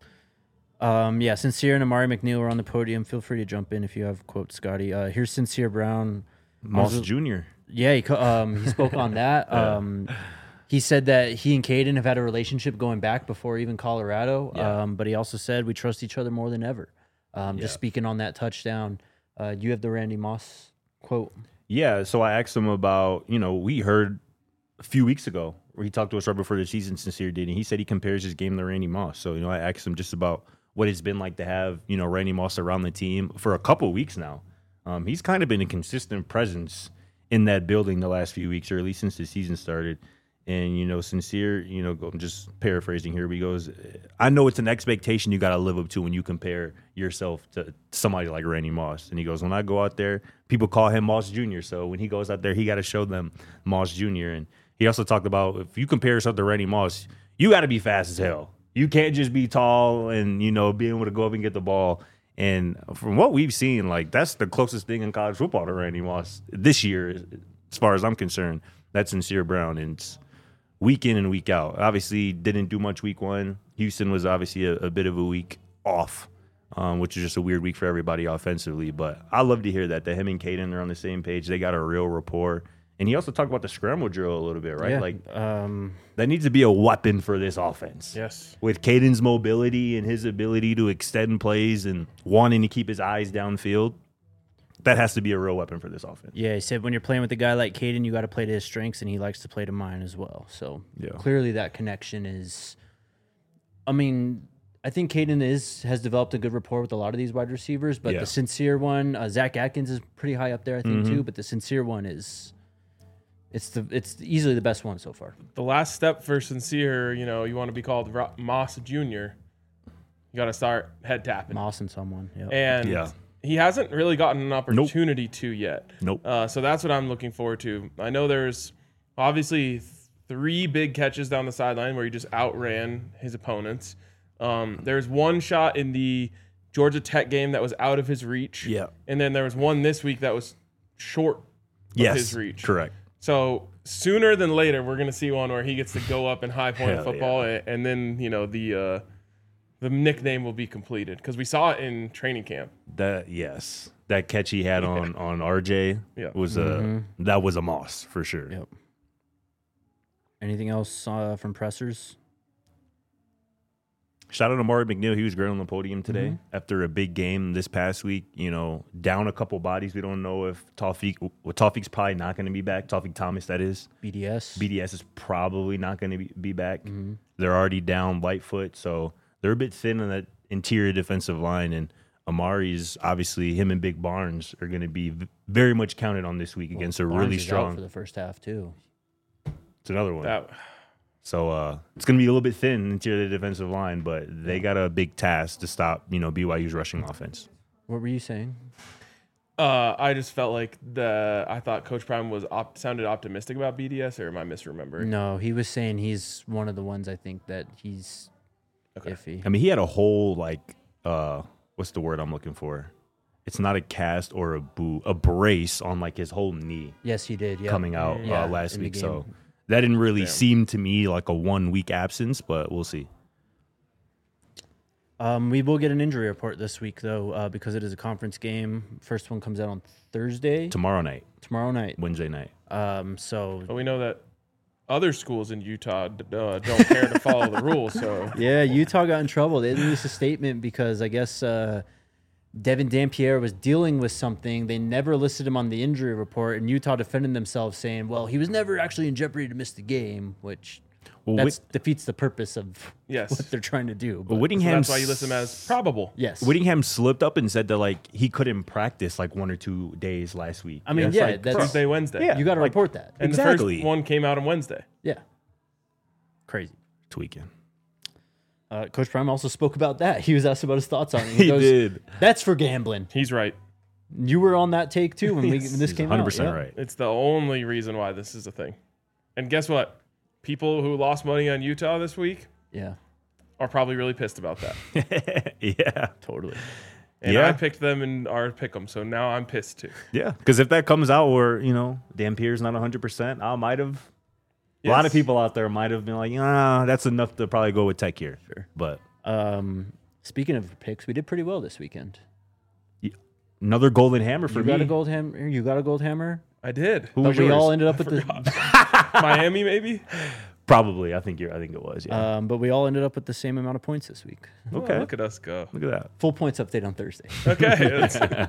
Sincere and Amari McNeil are on the podium. Feel free to jump in if you have quotes, Scotty. Here's Sincere Brown. Moss Jr. Yeah, he spoke on that. He said that he and Caden have had a relationship going back before even Colorado. Yeah. But he also said we trust each other more than ever. Just speaking on that touchdown. Do you have the Randy Moss quote? Yeah, so I asked him about, we heard a few weeks ago where he talked to us right before the season, Sincere did, and he said he compares his game to Randy Moss. So, I asked him just about what it's been like to have, Randy Moss around the team for a couple of weeks now. He's kind of been a consistent presence in that building the last few weeks, or at least since the season started. And, Sincere, I'm just paraphrasing here, but he goes, I know it's an expectation you got to live up to when you compare yourself to somebody like Randy Moss. And he goes, when I go out there, people call him Moss Jr. So when he goes out there, he got to show them Moss Jr. And he also talked about if you compare yourself to Randy Moss, you got to be fast as hell. You can't just be tall and, be able to go up and get the ball. And from what we've seen, like that's the closest thing in college football to Randy Moss this year, as far as I'm concerned. That's Sincere Brown. And it's week in and week out. Obviously, didn't do much week one. Houston was obviously a bit of a week off, which is just a weird week for everybody offensively. But I love to hear that him and Caden are on the same page. They got a real rapport. And he also talked about the scramble drill a little bit, right? Yeah. Like that needs to be a weapon for this offense. Yes. With Caden's mobility and his ability to extend plays and wanting to keep his eyes downfield, that has to be a real weapon for this offense. Yeah, he said when you're playing with a guy like Caden, you got to play to his strengths, and he likes to play to mine as well. So clearly that connection is. I mean, I think Caden has developed a good rapport with a lot of these wide receivers, but the Sincere one, Zach Atkins is pretty high up there, I think too. But the Sincere one is, it's easily the best one so far. The last step for Sincere, you want to be called Moss Jr., you got to start head tapping. Moss and someone, yeah. And he hasn't really gotten an opportunity to yet. Nope. So that's what I'm looking forward to. I know there's obviously 3 big catches down the sideline where he just outran his opponents. There's one shot in the Georgia Tech game that was out of his reach. Yeah. And then there was one this week that was short of his reach. Correct. So sooner than later, we're going to see one where he gets to go up and high point Hell football, and then the nickname will be completed because we saw it in training camp. That catch he had on RJ was that was a Moss for sure. Yep. Anything else from pressers? Shout out to Amari McNeil. He was great on the podium today after a big game this past week. Down a couple bodies. We don't know if Tawfiq's probably not going to be back. Tawfiq Thomas, that is. BDS is probably not going to be back. They're already down Lightfoot, so they're a bit thin on that interior defensive line. And Amari's obviously him and Big Barnes are going to be very much counted on this week against a Barnes really is out strong. for the first half too. It's another one. So it's going to be a little bit thin interior defensive line, but they got a big task to stop, BYU's rushing offense. What were you saying? I just felt like I thought Coach Prime was sounded optimistic about BDS, or am I misremembering? No, he was saying he's one of the ones I think that he's iffy. I mean, he had a whole what's the word I'm looking for? it's not a cast or a brace on like his whole knee Yes, he did. Yeah. coming out Yeah, last in the week. game. So that didn't really seem to me like a 1 week absence, but we'll see. We will get an injury report this week, though, because it is a conference game. First one comes out on Thursday. Tomorrow night, Wednesday night. So But we know that other schools in Utah don't care to follow the rules. So yeah, Utah got in trouble. They released a statement because I guess Devin Dampierre was dealing with something. They never listed him on the injury report, and Utah defended themselves, saying, "Well, he was never actually in jeopardy to miss the game," which defeats the purpose of Yes. what they're trying to do. But But so Whittingham, that's why you list him as probable. yes, Whittingham slipped up and said that like he couldn't practice like 1 or 2 days last week. I mean, It's yeah, like, that's Tuesday, Wednesday. Yeah. you got to like- report that. And Exactly. the first one came out on Wednesday. Yeah, crazy. tweaking. Coach Prime also spoke about that. He was asked about his thoughts on it. He did. That's for gambling. He's right. You were on that take too when, when this He's came 100% out. Yeah. right. It's the only reason why this is a thing. And guess what? People who lost money on Utah this week Yeah, are probably really pissed about that. Yeah. totally. And Yeah. I picked them in our pick'em, so now I'm pissed too. Yeah. Because if that comes out where, Dampierre's not 100%, I might have. A lot of Yes. people out there might have been like, that's enough to probably go with Tech here. Sure. But Speaking of picks, we did pretty well this weekend. another golden hammer for You me. got a gold hammer. You got a gold hammer. I did. Who But was we yours? all ended up with the. Miami, maybe? Probably. I think it was. Yeah. But we all ended up with the same amount of points this week. Okay. Oh, look at us go. Look at that. Full points update on Thursday. Okay.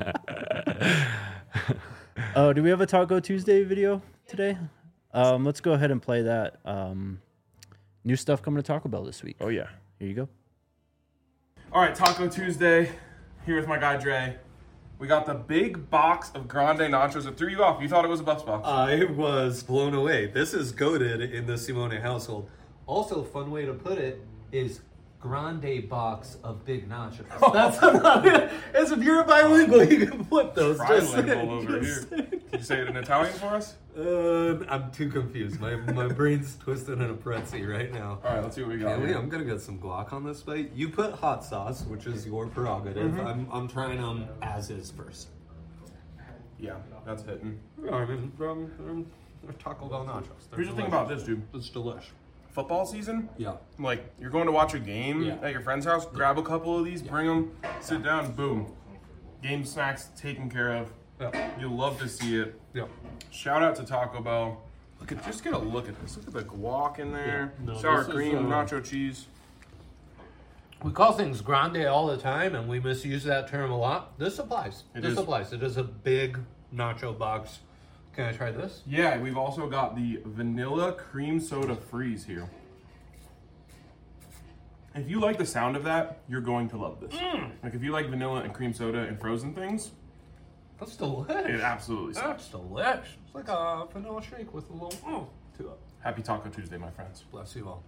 Oh, do we have a Taco Tuesday video today? Let's go ahead and play that. New stuff coming to Taco Bell this week. Oh, yeah. Here you go. All right, Taco Tuesday. Here with my guy, Dre. We got the big box of Grande Nachos. It threw you off. You thought it was a bus box. I was blown away. This is goated in the Simone household. Also, fun way to put it is grande box of big nachos. That's as if you're bilingual, you can flip those. Trilingual over here. Can you say it in Italian for us? I'm too confused. My brain's twisted in a pretzel right now. All right, let's see what we got. Haley, here. I'm gonna get some guac on this plate. You put hot sauce, which is your prerogative. I'm trying them as is first. Yeah, that's hitting. I mean, Taco Bell nachos. They're Here's the thing delicious. about this, dude. It's delish. Football season, Yeah. like you're going to watch a game Yeah. at your friend's house, grab a couple of these, bring them, sit down, boom. Game snacks taken care of. Yeah. You'll love to see it. Yeah. Shout out to Taco Bell. Just get a look at this. Look at the guac in there, Yeah. No, sour this is, cream, nacho cheese. We call things grande all the time, and we misuse that term a lot. This applies. It This is. applies. It is a big nacho box. Can I try this? Yeah, we've also got the vanilla cream soda freeze here. If you like the sound of that, you're going to love this. Like if you like vanilla and cream soda and frozen things, That's delicious. it absolutely sucks. That's delicious. It's like a vanilla shake with a little to it. Happy Taco Tuesday, my friends. Bless you all.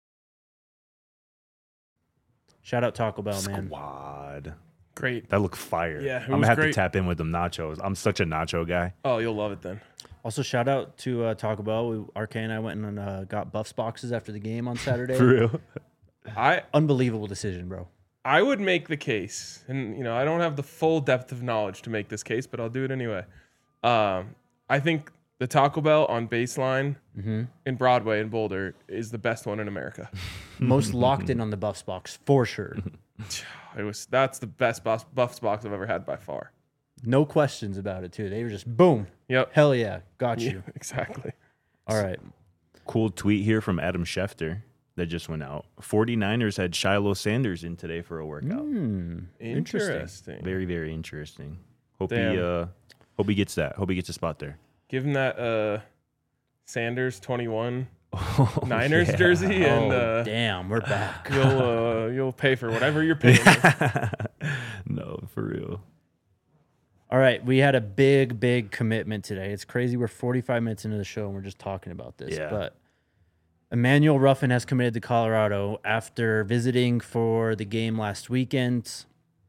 Shout out Taco Bell, man. Squad. Great. That looked fire. Yeah, it I'm gonna was have great. to tap in with them nachos. I'm such a nacho guy. Oh, you'll love it then. Also, shout out to Taco Bell. RK and I went and got Buffs boxes after the game on Saturday. For real. Unbelievable decision, bro. I would make the case, and I don't have the full depth of knowledge to make this case, but I'll do it anyway. I think the Taco Bell on Baseline in Broadway in Boulder is the best one in America. Most locked in on the Buffs box for sure. That's the best Buffs box I've ever had by far. No questions about it too. They were just boom. Yep. Hell yeah, got you. Exactly. All right. Cool tweet here from Adam Schefter that just went out. 49ers had Shiloh Sanders in today for a workout. Interesting. Very, very interesting. Hope Damn. he gets that. Hope he gets a spot there. Give him that Sanders 21 Niners jersey, and Oh, damn, we're back. you'll pay for whatever you're paying. No, for real. All right, we had a big commitment today. It's crazy. We're 45 minutes into the show and we're just talking about this. Yeah. But Emmanuel Ruffin has committed to Colorado after visiting for the game last weekend.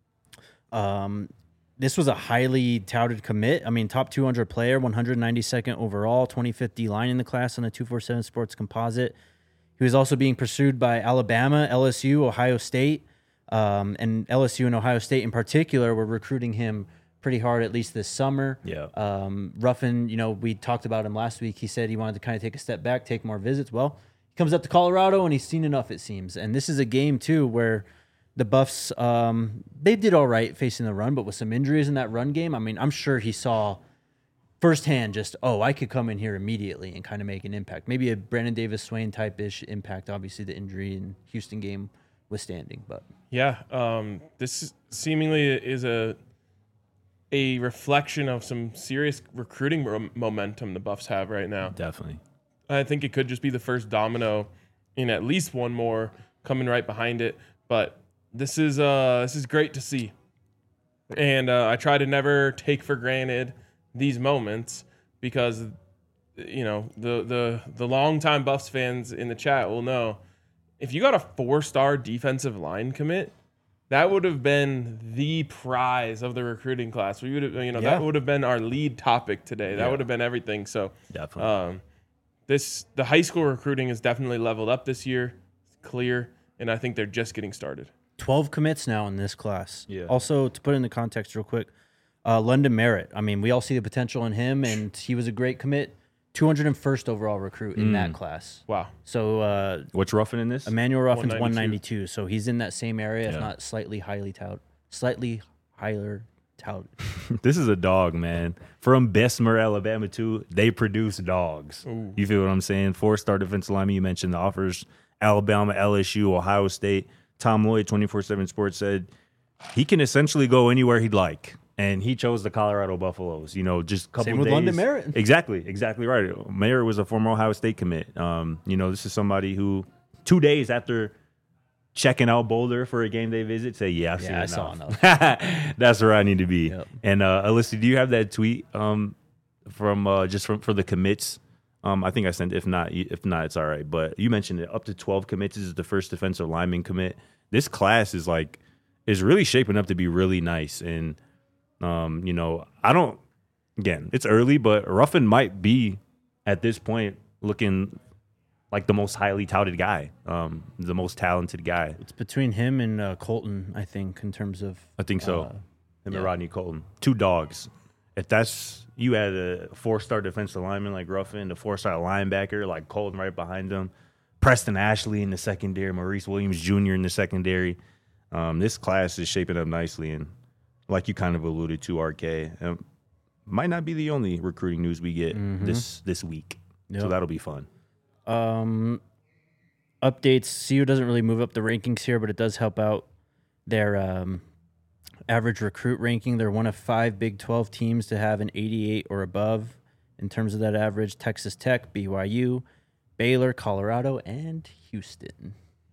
This was a highly touted commit. I mean, top 200 player, 192nd overall, 2050 line in the class on the 247 Sports Composite. He was also being pursued by Alabama, LSU, Ohio State. And LSU and Ohio State in particular were recruiting him pretty hard, at least this summer. Yeah. Ruffin, we talked about him last week. He said he wanted to kind of take a step back, take more visits. Well, he comes up to Colorado and he's seen enough, it seems. And this is a game too where the Buffs, they did all right facing the run, but with some injuries in that run game, I mean, I'm sure he saw firsthand just, I could come in here immediately and kind of make an impact. Maybe a Brandon Davis-Swain type-ish impact, obviously the injury in Houston game withstanding. But yeah, this seemingly is a reflection of some serious recruiting momentum the Buffs have right now. Definitely. I think it could just be the first domino in at least one more coming right behind it. But this is great to see, and I try to never take for granted these moments because the longtime Buffs fans in the chat will know if you got a 4-star defensive line commit, that would have been the prize of the recruiting class. We would have, that would have been our lead topic today. That would have been everything. So Definitely. The high school recruiting is definitely leveled up this year. It's clear, and I think they're just getting started. 12 commits now in this class. Yeah. Also, to put it into context real quick, London Merritt. I mean, we all see the potential in him, and he was a great commit. 201st overall recruit in that class. Wow. So What's Ruffin in this? Emmanuel Ruffin's 192. 192. So he's in that same area, Yeah. if not slightly higher touted. This is a dog, man. From Bessemer, Alabama, too. They produce dogs. Ooh. You feel what I'm saying? 4-star defensive lineman. You mentioned the offers. Alabama, LSU, Ohio State. Tom Lloyd, 24/7 Sports, said he can essentially go anywhere he'd like. And he chose the Colorado Buffaloes. Just a couple Same days. with London Merritt. Exactly right. Merritt was a former Ohio State commit. This is somebody who 2 days after checking out Boulder for a game day visit, say, I've seen enough. I saw enough. That's where I need to be. Yep. And Alyssa, do you have that tweet for the commits? I think I sent it. If not, it's all right. But you mentioned it. Up to 12 commits is the first defensive lineman commit. This class is really shaping up to be really nice. And it's early, but Ruffin might be at this point looking like the most highly touted guy, the most talented guy. It's between him and Colton, I think, in terms of. I think so. Him yeah. and Rodney Colton. 2 dogs. If you had a 4-star defensive lineman like Ruffin, a 4-star linebacker like Colton right behind him, Preston Ashley in the secondary, Maurice Williams Jr. in the secondary. This class is shaping up nicely, and like you kind of alluded to, RK, might not be the only recruiting news we get this week. Yep. So that'll be fun. Updates. CU doesn't really move up the rankings here, but it does help out their average recruit ranking. They're one of 5 Big 12 teams to have an 88 or above in terms of that average. Texas Tech, BYU, Baylor, Colorado, and Houston.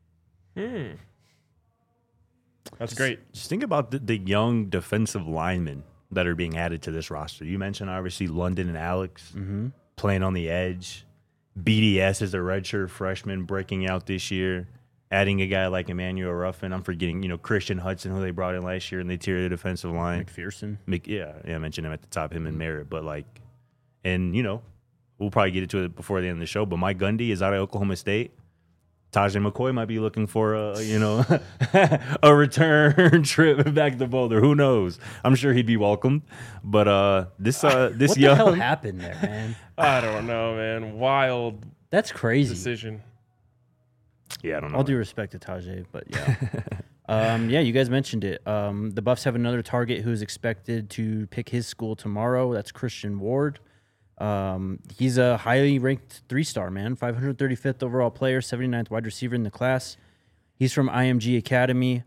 That's great. Just think about the young defensive linemen that are being added to this roster. You mentioned, obviously, London and Alex playing on the edge. BDS is a redshirt freshman breaking out this year. Adding a guy like Emmanuel Ruffin. I'm forgetting, Christian Hudson, who they brought in last year in the interior defensive line. McPherson. I mentioned him at the top, him and Merritt. But, we'll probably get into it before the end of the show. But Mike Gundy is out of Oklahoma State. Tajay McCoy might be looking for a return trip back to Boulder. Who knows? I'm sure he'd be welcomed. But this What the hell happened there, man? I don't know, man. Wild That's crazy. decision. Yeah, I don't know. All due respect to Tajay, but yeah. You guys mentioned it. The Buffs have another target who's expected to pick his school tomorrow. That's Christian Ward. He's a highly ranked 3-star, man. 535th overall player, 79th wide receiver in the class. He's from IMG Academy.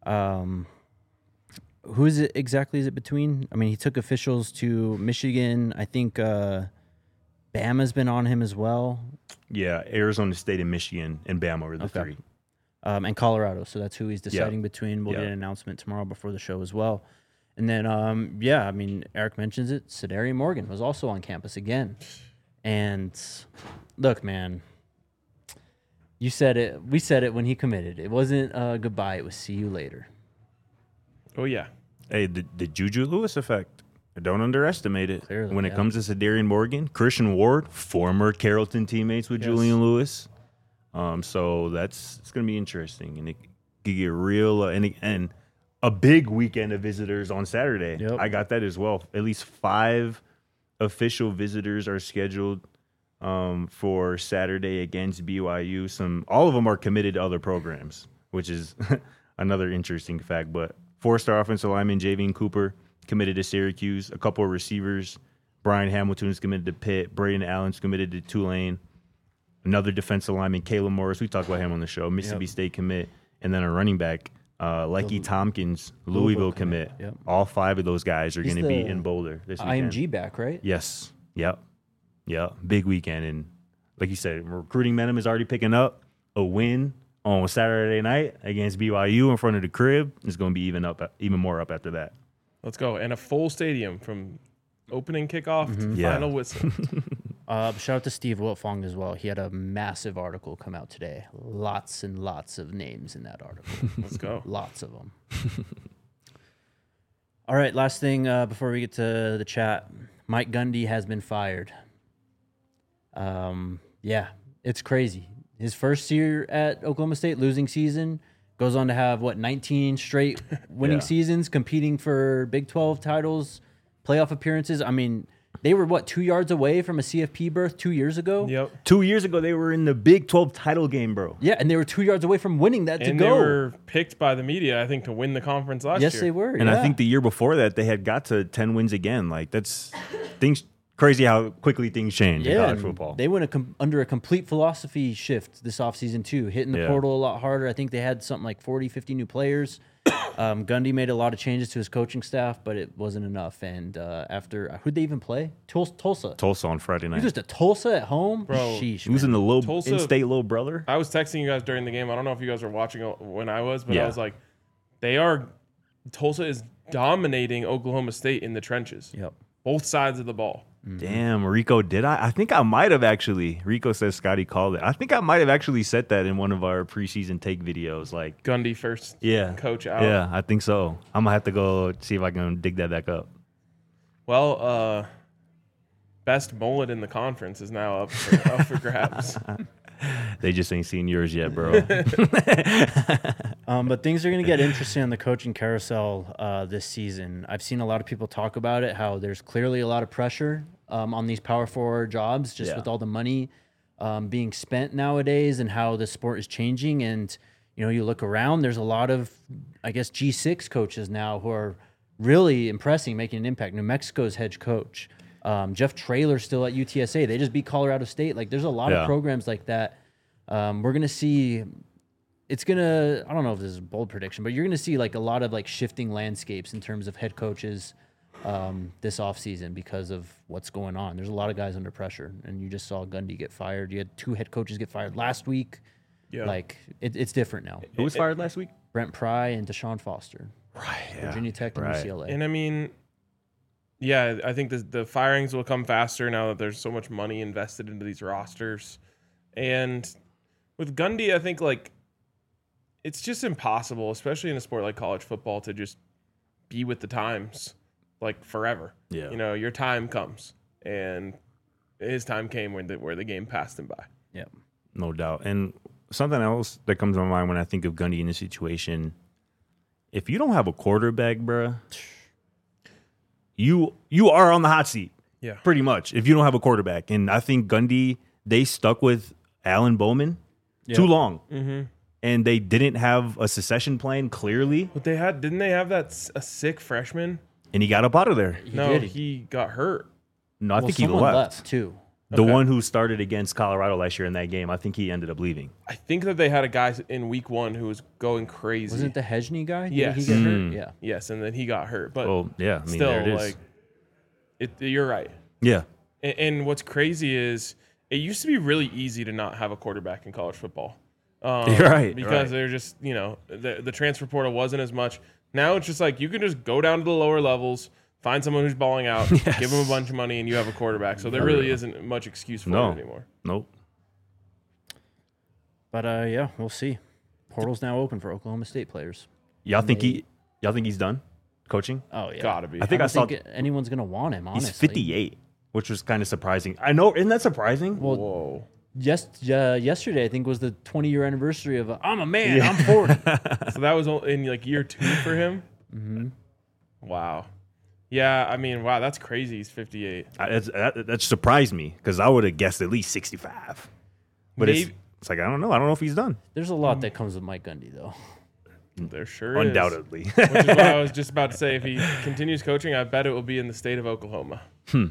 Who is it exactly? Is it between? I mean, he took officials to Michigan. I think Bama's been on him as well. Yeah, Arizona State and Michigan and Bama were the 3. And Colorado. So that's who he's deciding between. We'll get an announcement tomorrow before the show as well. And then, Eric mentions it. Sadarian Morgan was also on campus again. And look, man, you said it. We said it when he committed. It wasn't goodbye. It was see you later. Oh, yeah. Hey, the Juju Lewis effect. Don't underestimate it. Clearly, when it comes to Sadarian Morgan, Christian Ward, former Carrollton teammates with Julian Lewis. So it's going to be interesting. And it could get real, and a big weekend of visitors on Saturday. Yep. I got that as well. At least 5 official visitors are scheduled for Saturday against BYU. All of them are committed to other programs, which is another interesting fact. But 4-star offensive lineman Javian Cooper committed to Syracuse. A couple of receivers, Brian Hamilton is committed to Pitt. Braden Allen's committed to Tulane. Another defensive lineman, Caleb Morris. We talked about him on the show. Mississippi State commit. And then a running back, Lecky Tompkins, Louisville commit. Yep. All 5 of those guys are He's going to be the in Boulder this weekend. IMG back, right? Yes. Yep. Big weekend. And like you said, recruiting momentum is already picking up. A win on Saturday night against BYU in front of the crib is going to be even more up after that. Let's go. And a full stadium from opening kickoff to Yeah. final whistle. Shout out to Steve Wiltfong as well. He had a massive article come out today. Lots and lots of names in that article. Let's go. Lots of them. All right, last thing before we get to the chat. Mike Gundy has been fired. Yeah, it's crazy. His first year at Oklahoma State, losing season, goes on to have, 19 straight winning seasons, competing for Big 12 titles, playoff appearances. I mean, they were, 2 yards away from a CFP berth 2 years ago? Yep. 2 years ago, they were in the Big 12 title game, bro. Yeah, and they were 2 yards away from winning that And to they go. were picked by the media, I think, to win the conference last year. Yes, they were. And yeah. I think the year before that, they had got to 10 wins again. Like, that's things crazy how quickly things change in college and football. They went under a complete philosophy shift this offseason, too, hitting the portal a lot harder. I think they had something like 40, 50 new players. Gundy made a lot of changes to his coaching staff, but it wasn't enough. And after, who'd they even play? Tulsa. Tulsa on Friday night. You just a Tulsa at home? Bro, Sheesh, Losing man. the Tulsa- in-state little brother. I was texting you guys during the game. I don't know if you guys were watching when I was, but Yeah. I was like, Tulsa is dominating Oklahoma State in the trenches. Yep. Both sides of the ball. Damn, Rico, did I? I think I might have actually. Rico says Scotty called it. I think I might have actually said that in one of our preseason take videos. Like, Gundy first yeah, coach out. Yeah, I think so. I'm gonna have to go see if I can dig that back up. Well, best mullet in the conference is now up for grabs. They just ain't seen yours yet, bro. But things are going to get interesting on the coaching carousel this season. I've seen a lot of people talk about it, how there's clearly a lot of pressure on these power forward jobs, just with all the money being spent nowadays and how the sport is changing. And, you look around, there's a lot of, I guess, G6 coaches now who are really impressing, making an impact. New Mexico's head coach. Jeff Traylor still at UTSA. They just beat Colorado State. Like, there's a lot of programs like that. We're going to see... It's going to, I don't know if this is a bold prediction, but you're going to see like a lot of like shifting landscapes in terms of head coaches this offseason because of what's going on. There's a lot of guys under pressure, and you just saw Gundy get fired. You had 2 head coaches get fired last week. Yeah. Like, it's different now. Who was fired last week? Brent Pry and Deshaun Foster. Right. Virginia Tech and UCLA. And I mean, yeah, I think the firings will come faster now that there's so much money invested into these rosters. And with Gundy, I think like it's just impossible, especially in a sport like college football, to just be with the times like forever. Yeah. Your time comes, and his time came where the game passed him by. Yeah. No doubt. And something else that comes to my mind when I think of Gundy in this situation, if you don't have a quarterback, bruh, you are on the hot seat. Yeah. Pretty much. If you don't have a quarterback. And I think Gundy, they stuck with Alan Bowman too long. Mm-hmm. And they didn't have a succession plan clearly. But didn't they have a sick freshman? And he got up out of there. He got hurt. No, I think he someone left. too. The one who started against Colorado last year in that game, I think he ended up leaving. I think that they had a guy in week 1 who was going crazy. Wasn't it the Hejny guy? Yes. Did he get hurt? Yeah. Yes, and then he got hurt. But Well, yeah, I mean, still, there it is. like, you're right. Yeah. And what's crazy is it used to be really easy to not have a quarterback in college football. You're right. Because they're just, the transfer portal wasn't as much. Now it's just like you can just go down to the lower levels, find someone who's balling out, give them a bunch of money, and you have a quarterback. So there really isn't much excuse for it anymore. Nope. But yeah, we'll see. Portal's now open for Oklahoma State players. Y'all think he's done coaching? Oh yeah, Gotta be. I think I saw think anyone's gonna want him. Honestly, he's 58, which was kind of surprising. I know, isn't that surprising? Well, Whoa. yesterday, I think, was the 20-year anniversary of I'm a man, I'm 40. So that was in like year 2 for him. Mm-hmm. Wow. Yeah, I mean, wow, that's crazy. He's 58. That surprised me because I would have guessed at least 65. But it's like I don't know. I don't know if he's done. There's a lot that comes with Mike Gundy, though. There sure Undoubtedly. is. Which is what I was just about to say. If he continues coaching, I bet it will be in the state of Oklahoma.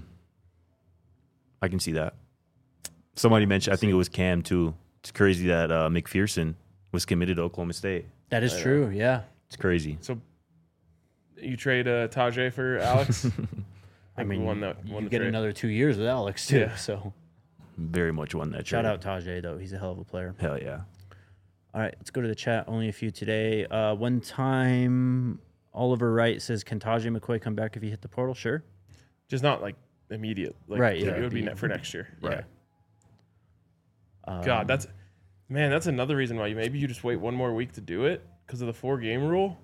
I can see that. Somebody mentioned, I think it was Cam too. It's crazy that McPherson was committed to Oklahoma State. That is true, yeah. It's crazy. So you trade Tajay for Alex? I mean, you get another 2 years with Alex, too. Yeah. So Very much won that shout trade. out Tajay, though. He's a hell of a player. Hell yeah. All right, let's go to the chat. Only a few today. One time, Oliver Wright says, can Tajay McCoy come back if he hit the portal? Sure. Just not like immediate. Like, Right, yeah. It would be for next year. Right. God, that's another reason why maybe you just wait one more week to do it because of the 4-game rule.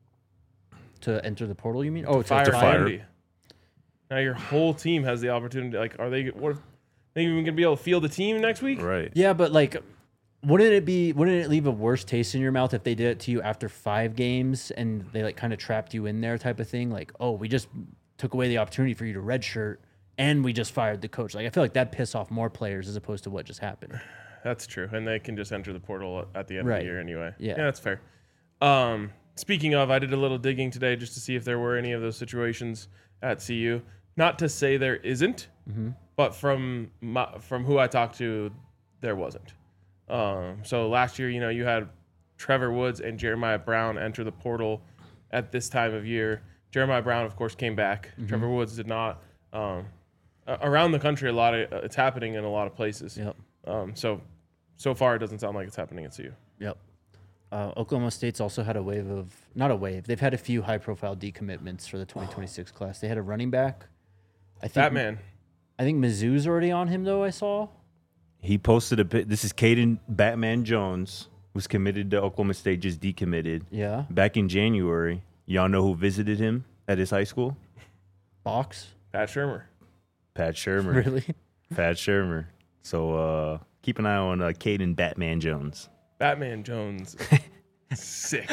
To enter the portal, you mean? Oh, Fire to fire. Gundy. Now your whole team has the opportunity. Like, are they? What if they even gonna be able to field the team next week? Right. Yeah, but like, wouldn't it leave a worse taste in your mouth if they did it to you after 5 games and they like kind of trapped you in there type of thing? Like, oh, we just took away the opportunity for you to redshirt and we just fired the coach. Like, I feel like that piss off more players as opposed to what just happened. That's true, and they can just enter the portal at the end of Right. the year anyway. Yeah. That's fair. Speaking of, I did a little digging today just to see if there were any of those situations at CU. Not to say there isn't, but from who I talked to, there wasn't. So last year, you had Trevor Woods and Jeremiah Brown enter the portal at this time of year. Jeremiah Brown, of course, came back. Trevor Woods did not. Around the country, it's happening in a lot of places. Yep. So far, it doesn't sound like it's happening at CU. Yep. Oklahoma State's also had they've had a few high-profile decommitments for the 2026 class. They had a running back. I think Batman. I think Mizzou's already on him, though, I saw. He posted a bit. This is Caden Batman Jones, who's committed to Oklahoma State, just decommitted. Yeah. Back in January, y'all know who visited him at his high school? Box? Pat Shermer. Pat Shermer. Really? Pat Shermer. So keep an eye on Caden Batman Jones. Batman Jones. Sick.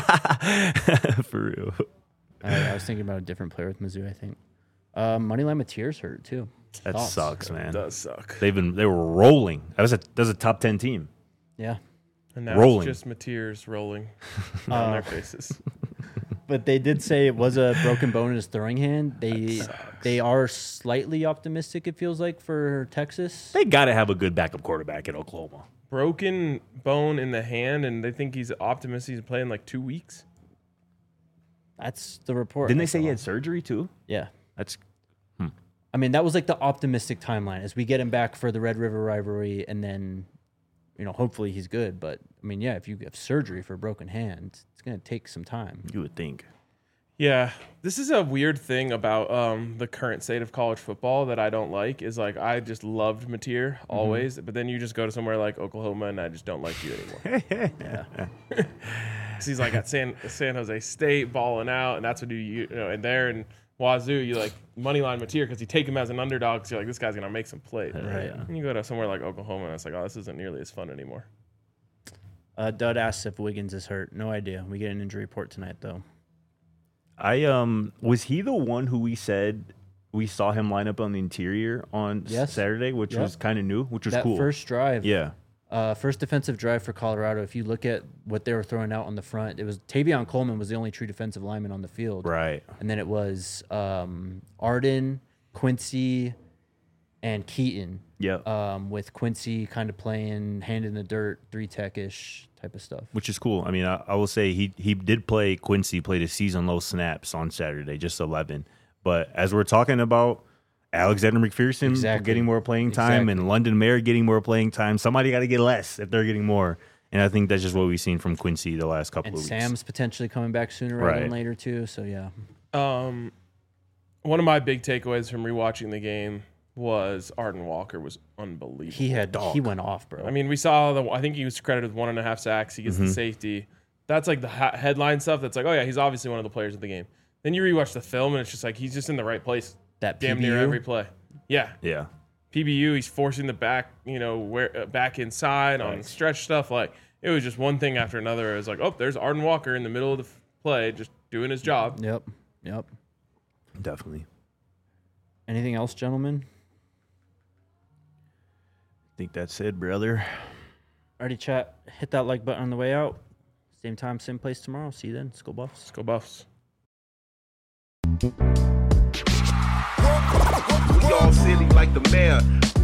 For real. I was thinking about a different player with Mizzou, I think. Moneyline Mateer's hurt, too. That Thoughts? sucks, man. It does suck. They were rolling. That was a top 10 team. Yeah. And now Rolling. it's just Mateers rolling on their faces. But they did say it was a broken bone in his throwing hand. They are slightly optimistic, it feels like, for Texas. They got to have a good backup quarterback at Oklahoma. Broken bone in the hand, and they think he's optimistic he's playing like 2 weeks. That's the report. Didn't they say he had surgery too? Yeah. That's I mean, that was like the optimistic timeline as we get him back for the Red River rivalry, and then, hopefully he's good. But, I mean, yeah, if you have surgery for a broken hand, it's going to take some time. you would think. Yeah, this is a weird thing about the current state of college football that I don't like. Is like I just loved Mateer always, but then you just go to somewhere like Oklahoma, and I just don't like you anymore. Yeah. 'Cause he's like at San Jose State balling out, and that's what and there in Wazoo, you like moneyline Mateer because you take him as an underdog. So you're like, this guy's gonna make some plays. Right. And you go to somewhere like Oklahoma, and it's like, oh, this isn't nearly as fun anymore. Dud asks if Wiggins is hurt. No idea. We get an injury report tonight, though. Was he the one who we said we saw him line up on the interior on Yes. Saturday, which Yep. was kind of new, which was That cool. first drive. Yeah. First defensive drive for Colorado. If you look at what they were throwing out on the front, it was Tavion Coleman was the only true defensive lineman on the field. Right. And then it was Arden, Quincy, and Keaton. Yep. With Quincy kind of playing hand in the dirt, 3-tech-ish type of stuff. Which is cool. I mean, I will say he did play. Quincy played his season low snaps on Saturday, just 11. But as we're talking about Alexander McPherson Exactly. getting more playing time and London Mare getting more playing time, somebody got to get less if they're getting more. And I think that's just what we've seen from Quincy the last couple And of weeks. Sam's potentially coming back sooner rather than Right. later too. So yeah. One of my big takeaways from rewatching the game was Arden Walker was unbelievable. He went off, bro. I mean, we saw I think he was credited with 1.5 sacks. He gets the safety. That's like the headline stuff. That's like, oh yeah, he's obviously one of the players of the game. Then you rewatch the film, and it's just like he's just in the right place. that Damn PBU, near every play. Yeah. Yeah. PBU, he's forcing the back, back inside on stretch stuff. Like, it was just one thing after another. It was like, oh, there's Arden Walker in the middle of the play, just doing his job. Yep. Definitely. Anything else, gentlemen? I think that's it, brother. Alrighty, chat. Hit that like button on the way out. Same time, same place tomorrow. See you then. Skull Buffs. Let's go Buffs. We all silly like the mayor.